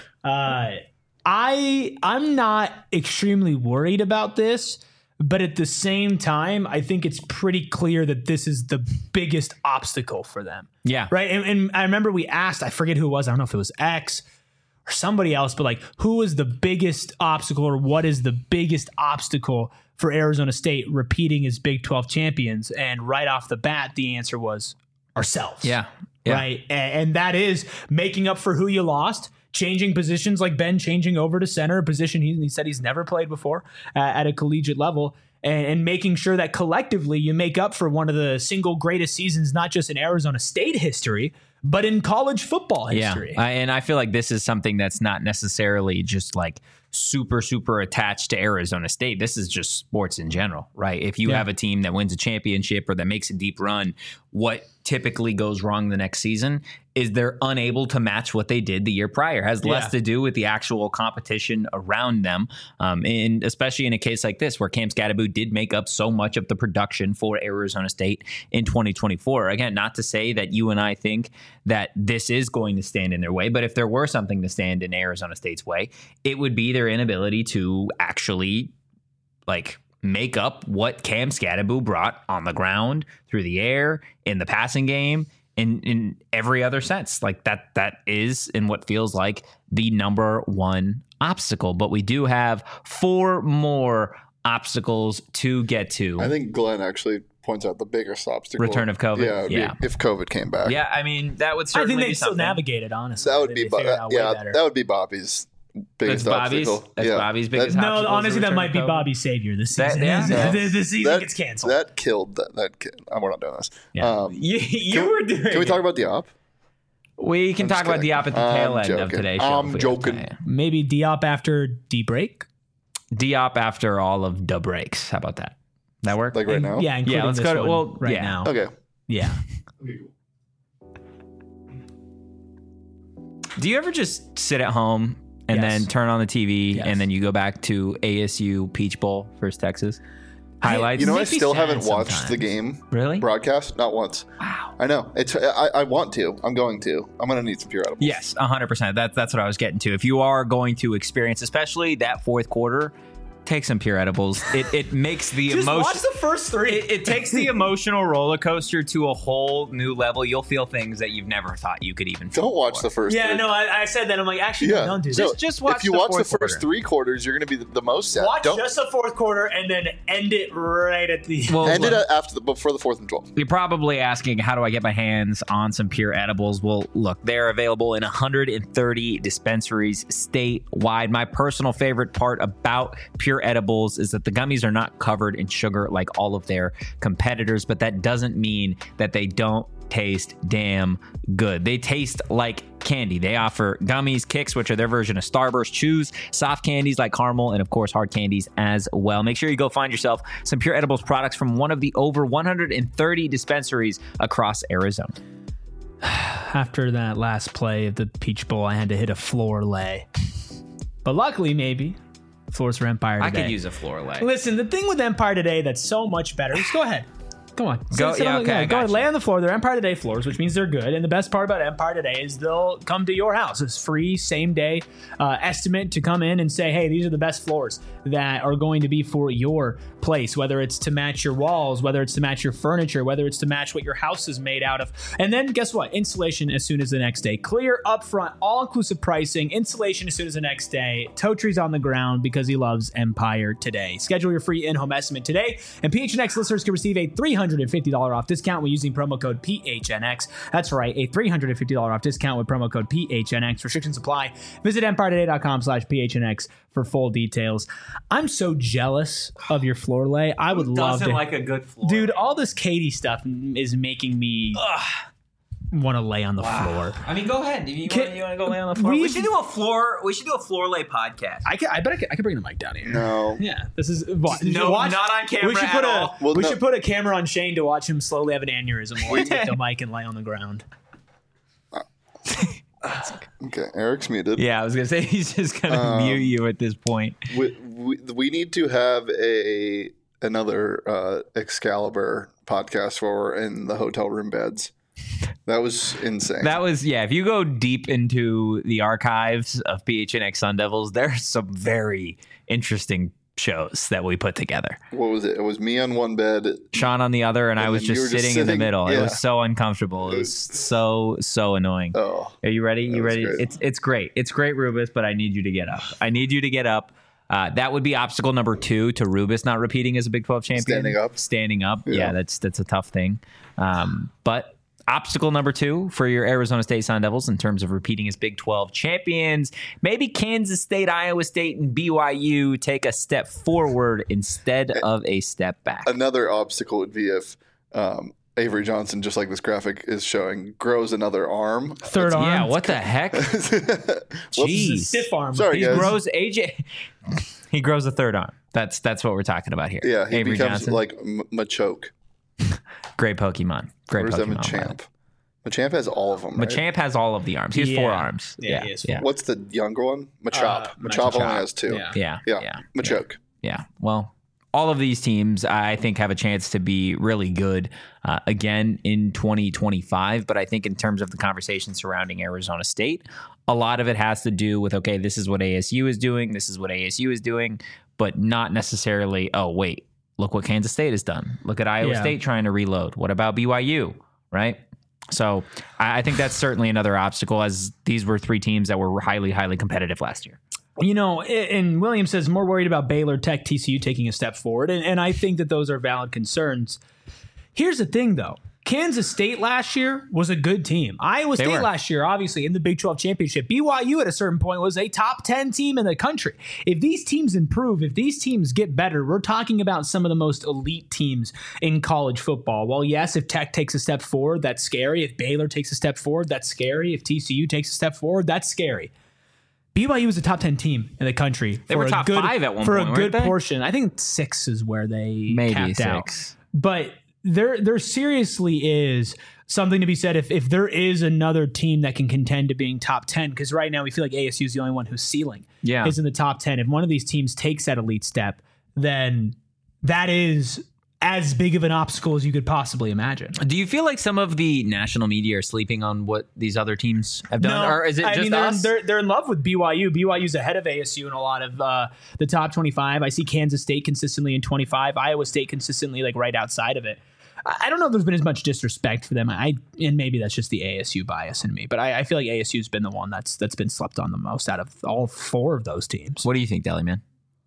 I'm not extremely worried about this, but at the same time, I think it's pretty clear that this is the biggest obstacle for them. Yeah. Right. And I remember we asked, I forget who it was. I don't know if it was X or somebody else, but like, who is the biggest obstacle, or what is the biggest obstacle for Arizona State repeating as Big 12 champions? And right off the bat, the answer was ourselves. Yeah. Right. And that is making up for who you lost. Changing positions, like Ben changing over to center, a position he said he's never played before at a collegiate level, and making sure that collectively you make up for one of the single greatest seasons, not just in Arizona State history, but in college football history. Yeah, and I feel like this is something that's not necessarily just like super, super attached to Arizona State. This is just sports in general, right? If you have a team that wins a championship or that makes a deep run, what typically goes wrong the next season is they're unable to match what they did the year prior. It has less to do with the actual competition around them. And especially in a case like this, where Cam Skattebo did make up so much of the production for Arizona State in 2024. Again, not to say that you and I think that this is going to stand in their way, but if there were something to stand in Arizona State's way, it would be their inability to actually like make up what Cam Skattebo brought on the ground, through the air, in the passing game, in every other sense. Like that is in what feels like the number one obstacle. But we do have 4 more obstacles to get to. I think Glenn actually points out the biggest obstacle. Return of COVID. Yeah. If COVID came back. Yeah, I mean, that would certainly I think be they still something. navigate it, honestly. That would be better. that would be Bobby's biggest obstacle. That's Bobby's biggest No, obstacle. honestly, that might be Bobby's savior this season. The season gets canceled. That killed that kid. We're not doing this. Yeah. You were doing Can we talk about Diop? We can talk about kidding. Diop at the tail end of joking. today's show. I'm joking. Maybe Diop after D-break? Diop after all of the breaks. How about that? That work? Like right now? Yeah, including let's this go to- one well, right yeah. now. Okay. Yeah. Do you ever just sit at home and then turn on the TV and then you go back to ASU Peach Bowl versus Texas? Highlights? You know, I Makes me still sad haven't watched sometimes. the game Really? broadcast. Not once. Wow. I know. I want to. I'm going to. I'm going to need some pure edibles. Yes, 100%. That's what I was getting to. If you are going to experience, especially that fourth quarter, take some pure edibles. It makes the Just emotion. watch the first 3. It takes the emotional roller coaster to a whole new level. You'll feel things that you've never thought you could even feel. Don't watch the first Yeah, three. no, I said that. I'm like, actually, Yeah. don't do No, this. Just watch if you the watch the fourth first quarter. 3 quarters, you're going to be the most sad. Watch Don't just the fourth quarter and then end it right at the Well, end look, it after before the 4th and 12th. You're probably asking, how do I get my hands on some pure edibles? Well, look, they're available in 130 dispensaries statewide. My personal favorite part about pure Pure Edibles is that the gummies are not covered in sugar like all of their competitors, but that doesn't mean that they don't taste damn good. They taste like candy. They offer gummies, Kicks, which are their version of Starburst, chews, soft candies like caramel, and of course hard candies as well. Make sure you go find yourself some Pure Edibles products from one of the over 130 dispensaries across Arizona. After that last play of the Peach Bowl, I had to hit a floor lay. But luckily, maybe, floors for Empire today. I could use a floor lay. Listen, the thing with Empire Today that's so much better, just go ahead. Come on. Go ahead, lay on the floor. They're Empire Today floors, which means they're good. And the best part about Empire Today is they'll come to your house. It's free, same day estimate to come in and say, hey, these are the best floors that are going to be for your place, whether it's to match your walls, whether it's to match your furniture, whether it's to match what your house is made out of. And then guess what? Installation as soon as the next day. Clear, upfront, all-inclusive pricing. Installation as soon as the next day. Totree's on the ground because he loves Empire Today. Schedule your free in-home estimate today, and PHNX listeners can receive a $350 off discount when using promo code PHNX. That's right, a $350 off discount with promo code PHNX. Restrictions apply. Visit EmpireToday.com/PHNX for full details. I'm so jealous of your floor lay. I would love to. like a good floor Dude, all this Katie stuff is making me want to lay on the floor. I mean, go ahead. You want to go lay on the floor? We should do a floor lay podcast. I bet I could bring the mic down here. No. Yeah, this is not on camera. We should put at all. We should put a camera on Shane to watch him slowly have an aneurysm while I take the mic and lay on the ground. Okay, Eric's muted. Yeah, I was gonna say he's just gonna mute you at this point. We need to have another Excalibur podcast for in the hotel room beds. That was insane. That was, yeah. If you go deep into the archives of PHNX Sun Devils, there's some very interesting shows that we put together. What was it? It was me on one bed, Sean on the other, and I was just sitting in the middle. Yeah. It was so uncomfortable. It was so annoying. Oh, are you ready? You ready? Great. It's great. It's great, Rubus, but I need you to get up. That would be obstacle number 2 to Rubus not repeating as a Big 12 champion. Standing up. Yeah, that's a tough thing. But obstacle number 2 for your Arizona State Sun Devils in terms of repeating as Big 12 champions. Maybe Kansas State, Iowa State, and BYU take a step forward instead of a step back. Another obstacle would be if Avery Johnson, just like this graphic is showing, grows another arm. Third arm. Yeah, what the heck? Jeez. Stiff arm. Sorry, He guys. grows He grows a third arm. That's what we're talking about here. Yeah, he Avery becomes Johnson. like Machoke. Great Pokemon. Or is that Machamp? Machamp has all of them, right? Machamp has all of the arms. He has 4 arms. Yeah, he has 4. What's the younger one? Machop. Machop only has 2. Yeah. Yeah. Machoke. Yeah. Well, all of these teams, I think, have a chance to be really good again in 2025. But I think in terms of the conversation surrounding Arizona State, a lot of it has to do with, okay, this is what ASU is doing. This is what ASU is doing, but not necessarily, oh, wait, look what Kansas State has done. Look at Iowa State trying to reload. What about BYU, right? So I think that's certainly another obstacle, as these were 3 teams that were highly, highly competitive last year. You know, and William says more worried about Baylor, Tech, TCU taking a step forward. And I think that those are valid concerns. Here's the thing, though. Kansas State last year was a good team. Iowa State last year, obviously, in the Big 12 championship. BYU at a certain point was a top 10 team in the country. If these teams improve, if these teams get better, we're talking about some of the most elite teams in college football. Well, yes, if Tech takes a step forward, that's scary. If Baylor takes a step forward, that's scary. If TCU takes a step forward, that's scary. BYU was a top 10 team in the country. They were top 5 at one point, for a good weren't they? portion. I think 6 is where they Maybe capped 6. out. But there seriously is something to be said if there is another team that can contend to being top 10, because right now we feel like ASU is the only one whose ceiling is in the top 10. If one of these teams takes that elite step, then that is as big of an obstacle as you could possibly imagine. Do you feel like some of the national media are sleeping on what these other teams have done? No, or is it just us? They're in love with BYU. BYU's ahead of ASU in a lot of the top 25. I see Kansas State consistently in 25. Iowa State consistently like right outside of it. I don't know if there's been as much disrespect for them. And maybe that's just the ASU bias in me. But I feel like ASU's been the one that's been slept on the most out of all 4 of those teams. What do you think, Deli Man?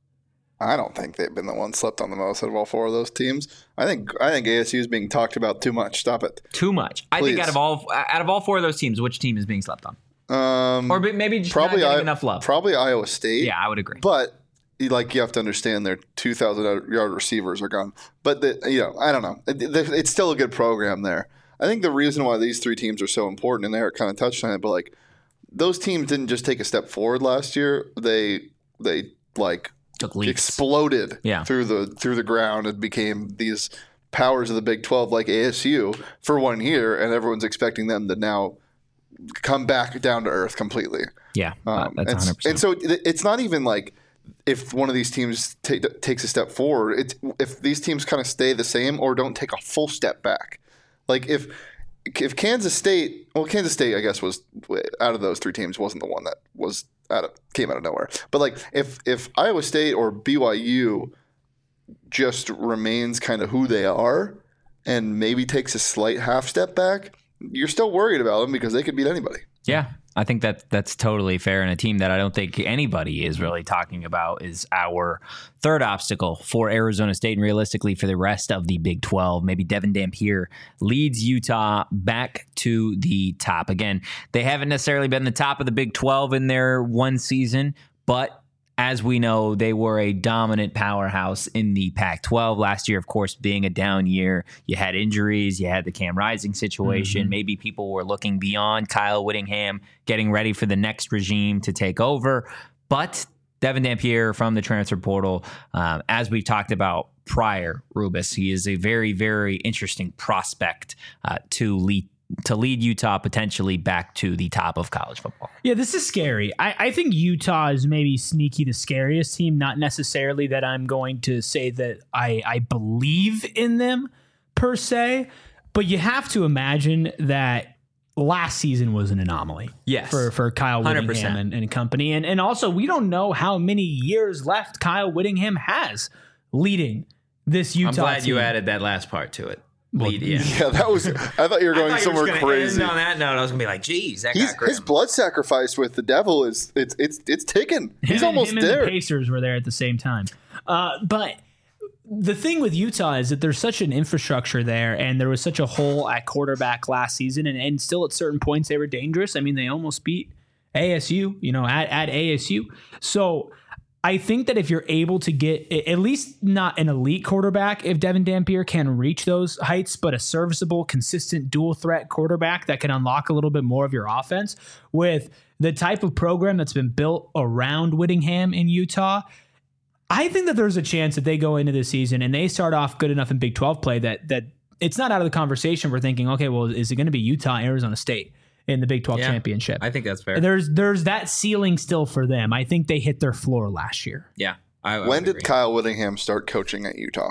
I don't think they've been the ones slept on the most out of all 4 of those teams. I think ASU is being talked about too much. Stop it. Too much. I think out of all 4 of those teams, which team is being slept on? Or maybe just not getting enough love. Probably Iowa State. Yeah, I would agree. But you have to understand their 2,000-yard receivers are gone. But I don't know. It's still a good program there. I think the reason why these three teams are so important, and Eric kind of touched on it, but like those teams didn't just take a step forward last year. They took leaps. Exploded through the ground and became these powers of the Big 12 like ASU for 1 year, and everyone's expecting them to now come back down to earth completely. Yeah, that's 100%. And so it's not even like if one of these teams takes a step forward. It's if these teams kind of stay the same or don't take a full step back. Like if Kansas State, I guess was out of those three teams wasn't the one that came out of nowhere. But like if Iowa State or BYU just remains kind of who they are and maybe takes a slight half step back, you're still worried about them because they could beat anybody. Yeah, I think that's totally fair. And a team that I don't think anybody is really talking about is our third obstacle for Arizona State and realistically for the rest of the Big 12. Maybe Devin Dampier leads Utah back to the top. Again, they haven't necessarily been the top of the Big 12 in their one season, but as we know, they were a dominant powerhouse in the Pac-12 last year, of course, being a down year. You had injuries. You had the Cam Rising situation. Mm-hmm. Maybe people were looking beyond Kyle Whittingham, getting ready for the next regime to take over. But Devin Dampier from the transfer portal, as we've talked about prior, Rubus, he is a very, very interesting prospect to lead Utah potentially back to the top of college football. Yeah, this is scary. I think Utah is maybe sneaky the scariest team, not necessarily that I'm going to say that I believe in them per se, but you have to imagine that last season was an anomaly. Yes. For Kyle Whittingham and company. And also, we don't know how many years left Kyle Whittingham has leading this Utah team. I'm glad you added that last part to it. Yeah, that was. I thought you were going somewhere crazy. On that note, I was gonna be like, "Geez, that got grim." His blood sacrifice with the devil is it's ticking. He's almost there. And the Pacers were there at the same time. But the thing with Utah is that there's such an infrastructure there, and there was such a hole at quarterback last season, and still at certain points they were dangerous. I mean, they almost beat ASU, at ASU. So I think that if you're able to get at least not an elite quarterback, if Devin Dampier can reach those heights, but a serviceable, consistent dual threat quarterback that can unlock a little bit more of your offense with the type of program that's been built around Whittingham in Utah, I think that there's a chance that they go into this season and they start off good enough in Big 12 play that it's not out of the conversation. We're thinking, okay, well, is it going to be Utah, Arizona State in the Big 12 championship? I think that's fair. There's that ceiling still for them. I think they hit their floor last year. Yeah. When did Kyle Whittingham start coaching at Utah?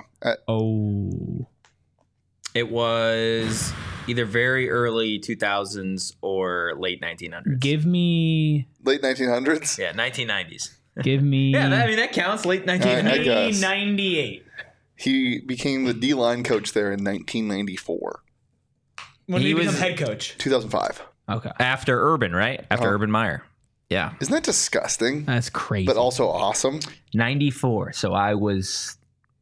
It was either very early 2000s or late 1900s. Give me late 1900s? Yeah, 1990s. Give me that counts. Late 1990s. 98. He became the D-line coach there in 1994. When he became head coach? 2005. Okay. After Urban, right? After Urban Meyer. Yeah. Isn't that disgusting? That's crazy. But also awesome. 94. So I was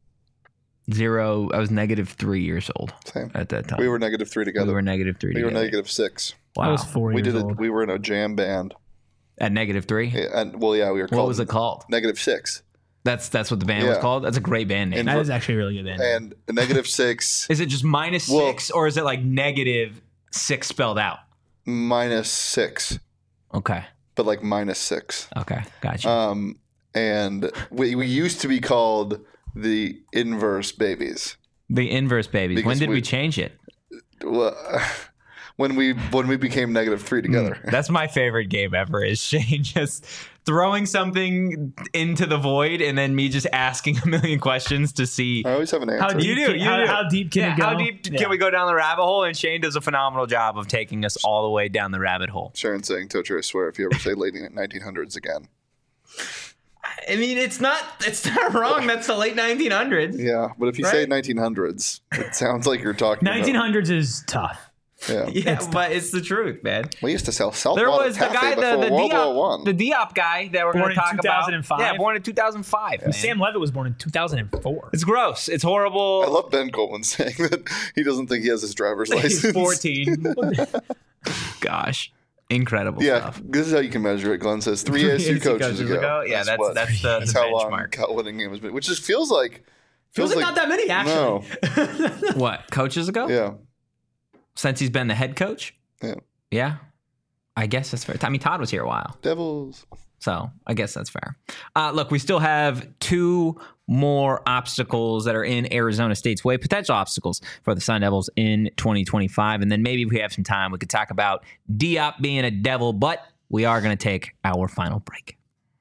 -3 years old. Same. At that time. We were -3 together. We were -3 together. We were -6. Wow. I was 4 years old. We were in a jam band. At -3? Yeah, we were called. What was it called? -6. That's what the band was called? That's a great band name. That is actually a really good band name. And -6. Is it just -6 or is it like -6 spelled out? -6. Okay. But like -6. Okay. Gotcha. And we used to be called the Inverse Babies. The Inverse Babies. Because when did we change it? Well, when we became -3 together. That's my favorite game ever is Shane just throwing something into the void and then me just asking a million questions to see. I always have an answer. How deep can it go? How deep can we go down the rabbit hole? And Shane does a phenomenal job of taking us all the way down the rabbit hole. Sharon's saying, Tocher, I swear, if you ever say late 1900s again. I mean, it's not wrong. That's the late 1900s. Yeah, but if you say 1900s, it sounds like you're talking 1900s is tough. Yeah, but it's the truth, man. We used to sell saltwater There was the guy, before World War I. the Diop guy that we're going to talk about. 2005? Yeah, born in 2005. Yeah. Sam Levitt was born in 2004. It's gross. It's horrible. I love Ben Coleman saying that he doesn't think he has his driver's license. He's 14. Gosh. Incredible Yeah, stuff. this is how you can measure it. Glenn says 3 ASU coaches ago. Yeah, that's the how long benchmark. Cal winning game has been, which just feels like not that many, actually. No, What, coaches ago? yeah, Since he's been the head coach? yeah. Yeah. I guess that's fair. I mean, Todd was here a while. Devils. So I guess that's fair. Look, we still have 2 more obstacles that are in Arizona State's way, potential obstacles for the Sun Devils in 2025. And then maybe if we have some time, we could talk about Diop being a Devil, but we are going to take our final break.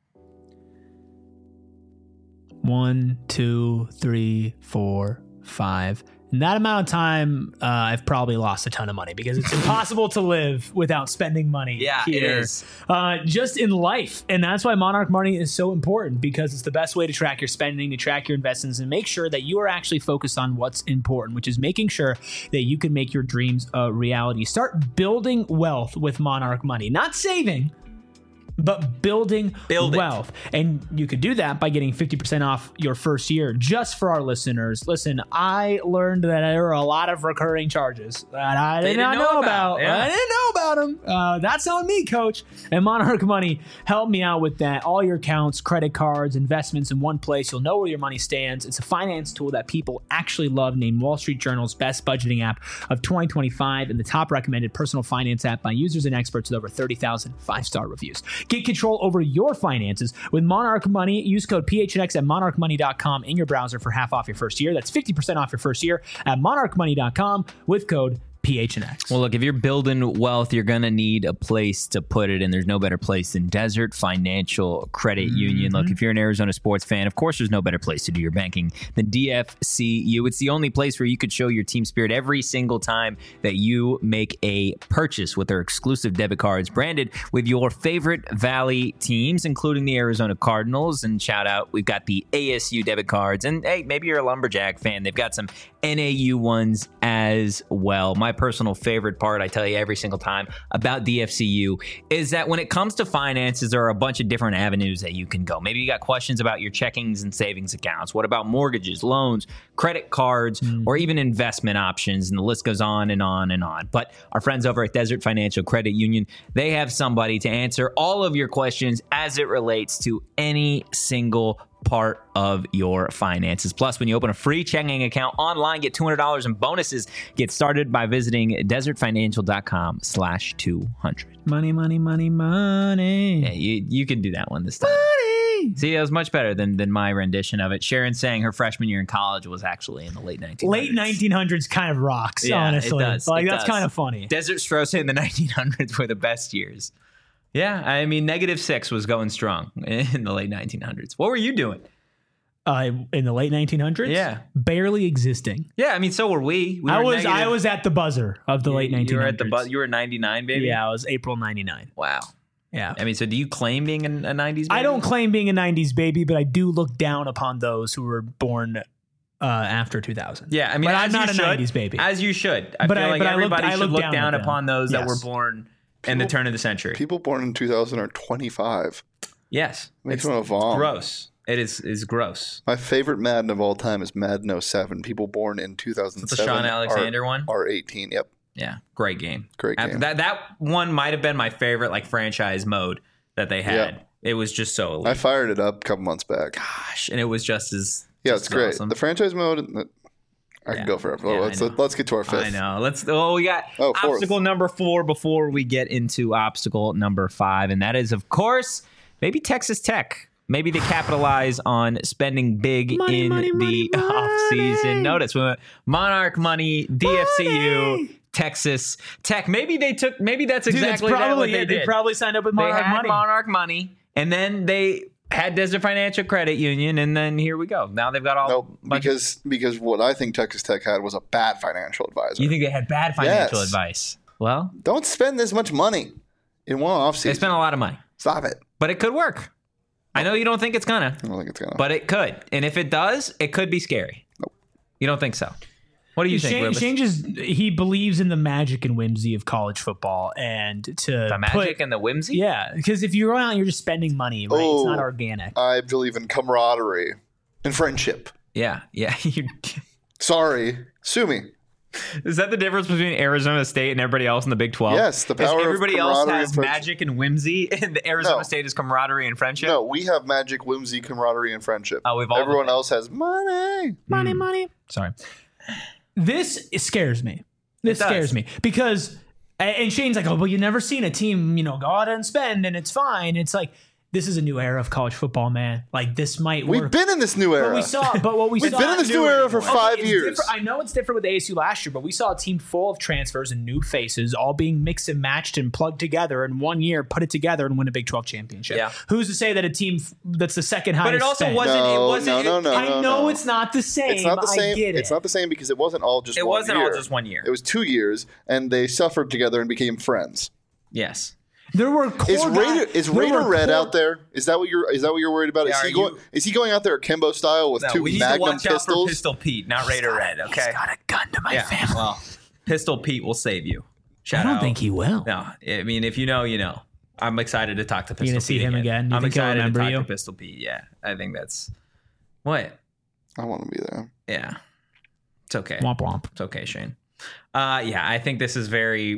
1, 2, 3, 4, 5. In that amount of time, I've probably lost a ton of money because it's impossible to live without spending money. Yeah, here. it is. Just in life. And that's why Monarch Money is so important, because it's the best way to track your spending, to track your investments, and make sure that you are actually focused on what's important, which is making sure that you can make your dreams a reality. Start building wealth with Monarch Money. Not saving, but building wealth. And you could do that by getting 50% off your first year. Just for our listeners, listen, I learned that there are a lot of recurring charges that I did not know about. Yeah. I didn't know about them. That's on me, coach. And Monarch Money helped me out with that. All your accounts, credit cards, investments in one place. You'll know where your money stands. It's a finance tool that people actually love, named Wall Street Journal's best budgeting app of 2025 and the top recommended personal finance app by users and experts with over 30,000 5-star reviews. Get control over your finances with Monarch Money. Use code PHNX at monarchmoney.com in your browser for half off your first year. That's 50% off your first year at monarchmoney.com with code PHNX. Well, look, if you're building wealth, you're going to need a place to put it, and there's no better place than Desert Financial Credit Union. Look, if you're an Arizona sports fan, of course there's no better place to do your banking than DFCU. It's the only place where you could show your team spirit every single time that you make a purchase with their exclusive debit cards branded with your favorite Valley teams, including the Arizona Cardinals. And shout out, we've got the ASU debit cards. And hey, maybe you're a Lumberjack fan. They've got some NAU ones as well. My personal favorite part, I tell you every single time about DFCU, is that when it comes to finances, there are a bunch of different avenues that you can go. Maybe you got questions about your checkings and savings accounts. What about mortgages, loans, credit cards, or even investment options? And the list goes on and on and on. But our friends over at Desert Financial Credit Union, they have somebody to answer all of your questions as it relates to any single part of your finances. Plus, when you open a free checking account online, get $200 in bonuses. Get started by visiting desertfinancial.com/200. Money, money, money, money. Yeah, you can do that one this time. Money. See, that was much better than my rendition of it. Sharon saying her freshman year in college was actually in the late 1900s. Late 1900s kind of rocks, Yeah, honestly. it does. Like, It that's does. kind of funny. Desert Strauss in the 1900s were the best years. Yeah, I mean, -6 was going strong in the late 1900s. What were you doing? In the late 1900s? Yeah. Barely existing. Yeah, I mean, so were we. I was at the buzzer of the late 1900s. You were at the you were 99, baby? Yeah, I was April 99. Wow. Yeah. I mean, so do you claim being a 90s baby? I don't claim being a 90s baby, but I do look down upon those who were born after 2000. Yeah, I mean, but as I'm not you a should, 90s baby. as you should. I But feel I- like but I everybody look should look down at them. upon those that were Yes. born in the turn of the century. People born in 2000 are 25. Yes. Makes me want to vom. Gross. It is gross. My favorite Madden of all time is Madden 07. People born in 2007 It's the Sean Alexander one? are 18. Yep. Yeah, great game. Great game. That one might have been my favorite like franchise mode that they had. Yeah. It was just so elite. I fired it up a couple months back. Gosh, and it was just as Yeah, just it's great. awesome. The franchise mode, I Yeah. can go forever. Yeah, Let's get to our fifth. I know. We got fourth. obstacle number 4 before we get into obstacle number 5, and that is, of course, maybe Texas Tech. Maybe they capitalize on spending big Money, in money, the money, offseason. money. Notice we went Monarch Money, DFCU, Texas Tech. Maybe that's Dude, that's exactly what probably they it. did. They probably signed up with They Monarch had Money. Monarch Money, and then they had Desert Financial Credit Union, and then here we go. Now they've got all. No, because what I think Texas Tech had was a bad financial advisor. You think they had bad financial Yes. advice? Well, Don't spend this much money in one they offseason. spent a lot of money, Stop it. but it could work. I know you don't think it's gonna, I don't think it's gonna. but it could, and if it does, it could be scary. Nope. You don't think so? What do you think, Rubens? He believes in the magic and whimsy of college football, and to The magic and the whimsy? Yeah, because if you're going out, you're just spending money, right? It's not organic. I believe in camaraderie and friendship. Yeah. Sorry, sue me. Is that the difference between Arizona State and everybody else in the Big 12? Yes, the power of everybody else camaraderie has and friendship. magic and whimsy, and the Arizona State is camaraderie and friendship. No, we have magic, whimsy, camaraderie, and friendship. Oh, we've all Everyone else has money. Money. Sorry. This scares me. This It does. scares me because, and Shane's like, oh, well, you've never seen a team, go out and spend and it's fine. It's like, this is a new era of college football, man. Like this might work. We've been in this new era. But what we We've saw been in this new era for 5 it's years. different. I know it's different with ASU last year, but we saw a team full of transfers and new faces all being mixed and matched and plugged together in 1 year, put it together and win a Big 12 championship. Yeah. Who's to say that a team that's the second highest But it also spend- wasn't. No, it wasn't. no. I know it's not the same. It's not the same. I get it. It's not the same because it wasn't all just It one wasn't year. all just 1 year. It was 2 years, and they suffered together and became friends. Yes. There were core Is Raider Red out there? Is that what you're worried about? Yeah, Is he going out there Kimbo style with two we need Magnum to watch out for pistols? Pistol Pete, not Raider Red. Okay. He's got a gun to my Yeah. family. Well, Pistol Pete will save you. Shout I don't out. think he will. No, I mean, if you know, you know. I'm excited to talk to Pistol Pete. gonna see him again? You I'm think he'll excited to remember talk you? to Pistol Pete. Yeah, I think that's what. I want to be there. Yeah, it's okay. Womp womp. It's okay, Shane. Yeah, I think this is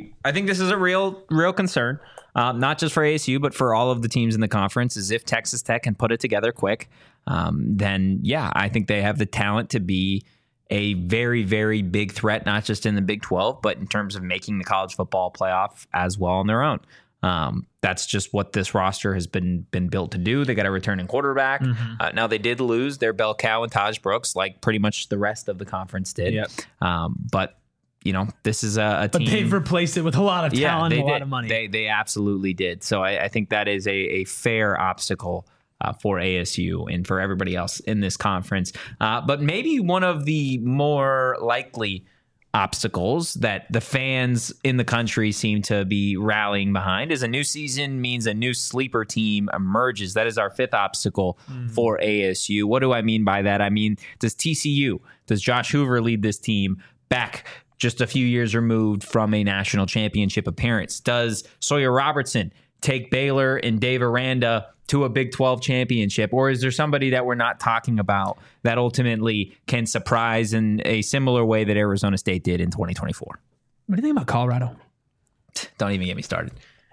a real concern, not just for ASU, but for all of the teams in the conference. Is if Texas Tech can put it together quick, then yeah, I think they have the talent to be a very, very big threat, not just in the Big 12, but in terms of making the college football playoff as well on their own. That's just what this roster has been built to do. They got a returning quarterback. Now they did lose their bell cow and Taj Brooks, like pretty much the rest of the conference did. Yep. But this is a But team. they've replaced it with a lot of talent they and a lot did. of money. They absolutely did. So I think that is a fair obstacle for ASU and for everybody else in this conference. But maybe one of the more likely obstacles that the fans in the country seem to be rallying behind is a new season means a new sleeper team emerges. That is our fifth obstacle for ASU. What do I mean by that? I mean, does Josh Hoover lead this team back just a few years removed from a national championship appearance? Does Sawyer Robertson take Baylor and Dave Aranda to a Big 12 championship? Or is there somebody that we're not talking about that ultimately can surprise in a similar way that Arizona State did in 2024? What do you think about Colorado? Don't even get me started.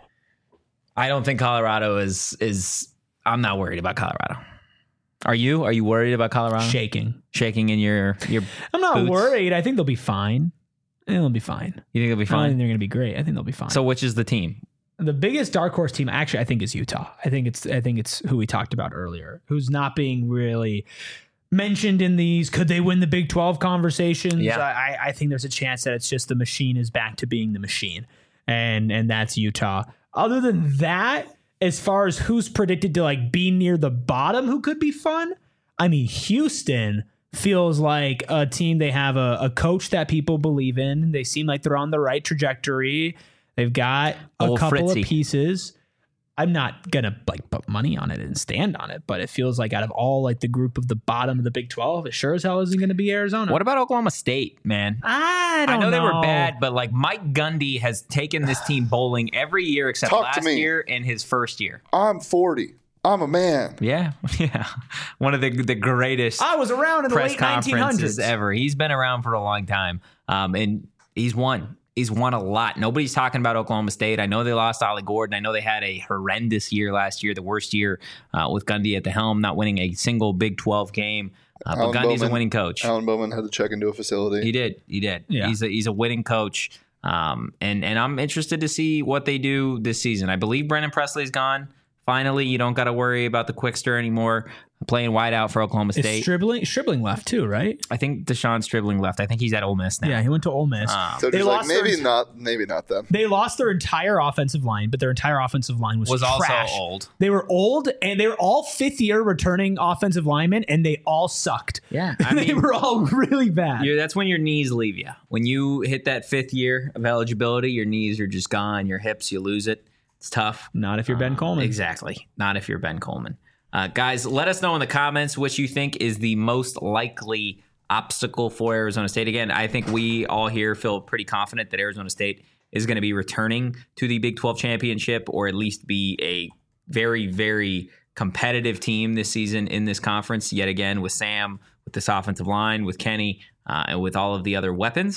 I don't think Colorado is I'm not worried about Colorado. Are you? Are you worried about Colorado? Shaking in your I'm not boots? worried. I think they'll be fine. They'll be fine. You think it'll be I don't think fine? they're going to be great. I think they'll be fine. So which is the team? The biggest dark horse team, actually, I think is Utah. I think it's who we talked about earlier, who's not being really mentioned in these. Could they win the Big 12 conversations? Yeah. I think there's a chance that it's just the machine is back to being the machine, and that's Utah. Other than that, as far as who's predicted to like be near the bottom, who could be fun? I mean, Houston feels like a team. They have a coach that people believe in. They seem like they're on the right trajectory. They've got a Old couple Fritzy. of pieces. I'm not gonna like put money on it and stand on it, but it feels like out of all like the group of the bottom of the Big 12, it sure as hell isn't gonna be Arizona. What about Oklahoma State, man? I don't I know they were know. bad, but like Mike Gundy has taken this team bowling every year except Talk to last me. year and his first year. I'm 40. I'm a man. Yeah. One of the greatest I was around in the press late conferences 1900s. ever. He's been around for a long time, and he's won. He's won a lot. Nobody's talking about Oklahoma State. I know they lost Ollie Gordon. I know they had a horrendous year last year, the worst year with Gundy at the helm, not winning a single Big 12 game. But Alan Gundy's a Bowman- winning coach. Alan Bowman had to check into a facility. He did. Yeah. He's a winning coach. And I'm interested to see what they do this season. I believe Brennan Presley's gone. Finally, you don't got to worry about the Quickster anymore. Playing wide out for Oklahoma Is State. Stribling left too, right? I think Deshaun Stribling left. I think he's at Ole Miss now. Yeah, he went to Ole Miss. So They just like lost their maybe not them. They lost their entire offensive line, but their entire offensive line was trash. also old. They were old, and they were all fifth-year returning offensive linemen, and they all sucked. Yeah, I they mean, were all really bad. that's when your knees leave you. When you hit that fifth year of eligibility, your knees are just gone. Your hips, you lose it. It's tough. Not if you're Ben Coleman. Exactly. Not if you're Ben Coleman. Guys, let us know in the comments which you think is the most likely obstacle for Arizona State. Again, I think we all here feel pretty confident that Arizona State is going to be returning to the Big 12 championship, or at least be a very, very competitive team this season in this conference. Yet again, with Sam, with this offensive line, with Kenny, and with all of the other weapons.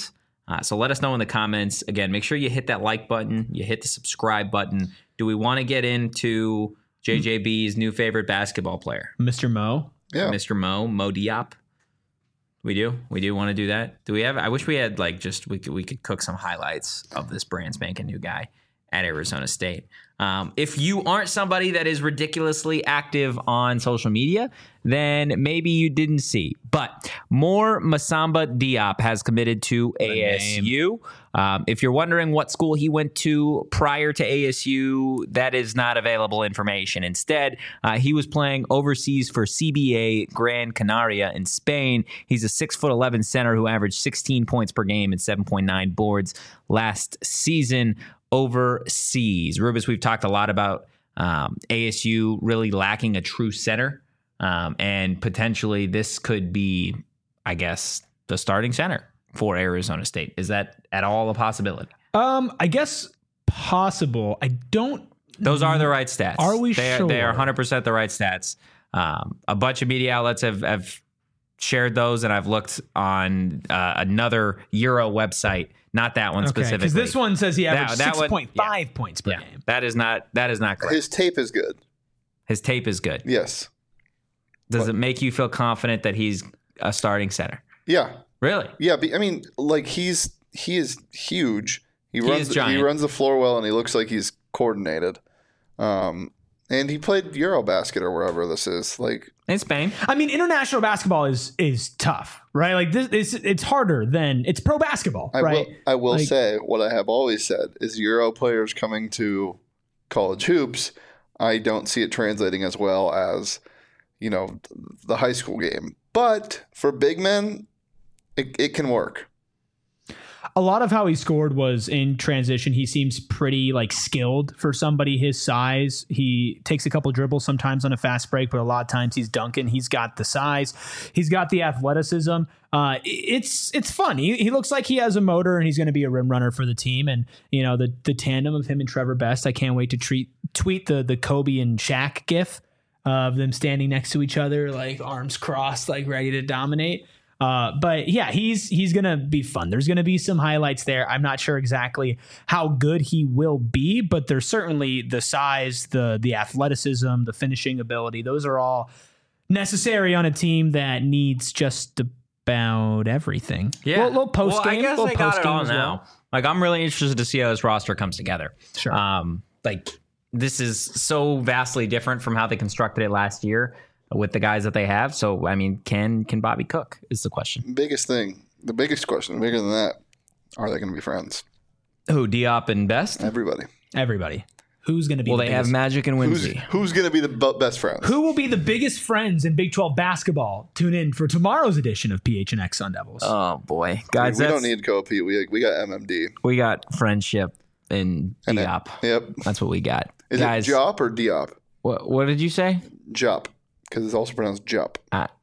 So let us know in the comments. Again, make sure you hit that like button. You hit the subscribe button. Do we want to get into JJB's new favorite basketball player? Mr. Mo. Yeah. Mr. Mo Diop. We do want to do that. Do we have? I wish we had we could cook some highlights of this brand spanking new guy at Arizona State. If you aren't somebody that is ridiculously active on social media, then maybe you didn't see. But More Masamba Diop has committed to ASU. If you're wondering what school he went to prior to ASU, that is not available information. Instead, he was playing overseas for CBA Gran Canaria in Spain. He's a 6'11" center who averaged 16 points per game and 7.9 boards last season overseas. Rubus, we've talked a lot about ASU really lacking a true center, and potentially this could be, I guess, the starting center for Arizona State. Is that at all a possibility? I guess possible. I don't. Those are the right stats. Are we sure? They are 100% the right stats. A bunch of media outlets have shared those, and I've looked on another Euro website. Not that one specifically. Because this one says he averaged 6.5 points per game. That is not correct. His tape is good. His tape is good. Yes. Does it make you feel confident that he's a starting center? Yeah. Really? Yeah. I mean, like he is huge. He runs the floor well, and he looks like he's coordinated. And he played Eurobasket or wherever this is, like in Spain. I mean, international basketball is tough, right? Like it's harder than it's pro basketball, right? I will say what I have always said is Euro players coming to college hoops. I don't see it translating as well as, the high school game. But for big men, it can work. A lot of how he scored was in transition. He seems pretty skilled for somebody his size. He takes a couple dribbles sometimes on a fast break, but a lot of times he's dunking. He's got the size. He's got the athleticism. It's fun. He looks like he has a motor, and he's going to be a rim runner for the team. And the tandem of him and Trevor Best. I can't wait to tweet the Kobe and Shaq gif of them standing next to each other, arms crossed, ready to dominate. But yeah, he's going to be fun. There's going to be some highlights there. I'm not sure exactly how good he will be, but there's certainly the size, the athleticism, the finishing ability. Those are all necessary on a team that needs just about everything. Yeah. Little post game. I guess I got it all now. I'm really interested to see how this roster comes together. Sure. This is so vastly different from how they constructed it last year with the guys that they have. So, I mean, can Bobby cook is the question. The biggest question, bigger than that, are they going to be friends? Who, Diop and Best? Everybody. Who's going to be Well, they have Magic and Whimsy. Who's going to be the best friends? Who will be the biggest friends in Big 12 basketball? Tune in for tomorrow's edition of PHNX Sun Devils. Oh, boy. Guys, we don't need co-op. We got MMD. We got friendship and Diop. Yep. That's what we got. Is guys, it Jop or Diop? What did you say? Jop. Because it's also pronounced Jup.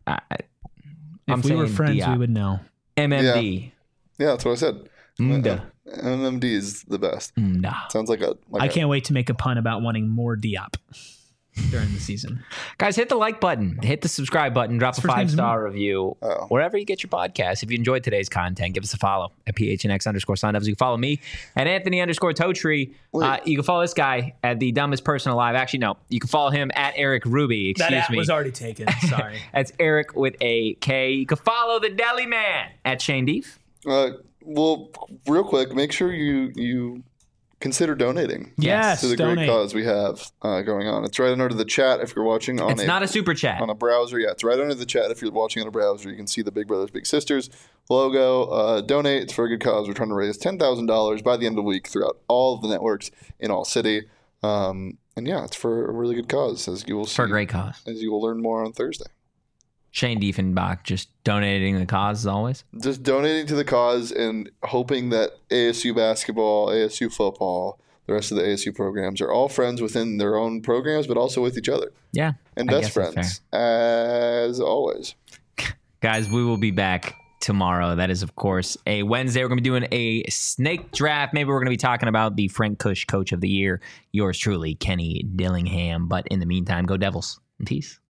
If we were friends, Diop. we would know. MMD. Yeah, that's what I said. Mda. MMD is the best. Mda. Sounds like I can't wait to make a pun about wanting more Diop during the season. Guys, hit the like button. Hit the subscribe button. Drop a 5-star review. Wherever you get your podcast. If you enjoyed today's content, give us a follow at PHNX_Sun Devils. You can follow me at Anthony_Totree. You can follow this guy at the dumbest person alive. Actually, no. You can follow him at Eric Ruby. Excuse me. Was already taken. Sorry. That's Eric with a K. You can follow the Deli Man at Shane Deef. Well, real quick, make sure you consider donating. Yes, to the great cause we have going on. It's right under the chat if you're watching on It's not a super chat. On a browser. Yeah, it's right under the chat if you're watching on a browser. You can see the Big Brothers Big Sisters logo. Donate. It's for a good cause. We're trying to raise $10,000 by the end of the week throughout all of the networks in all city. And yeah, it's for a really good cause, as you will see. For a great cause. As you will learn more on Thursday. Shane Diefenbach just donating the cause as always. Just donating to the cause and hoping that ASU basketball, ASU football, the rest of the ASU programs are all friends within their own programs, but also with each other. Yeah. And best friends, as always. Guys, we will be back tomorrow. That is, of course, a Wednesday. We're going to be doing a snake draft. Maybe we're going to be talking about the Frank Kush Coach of the Year. Yours truly, Kenny Dillingham. But in the meantime, go Devils. And peace.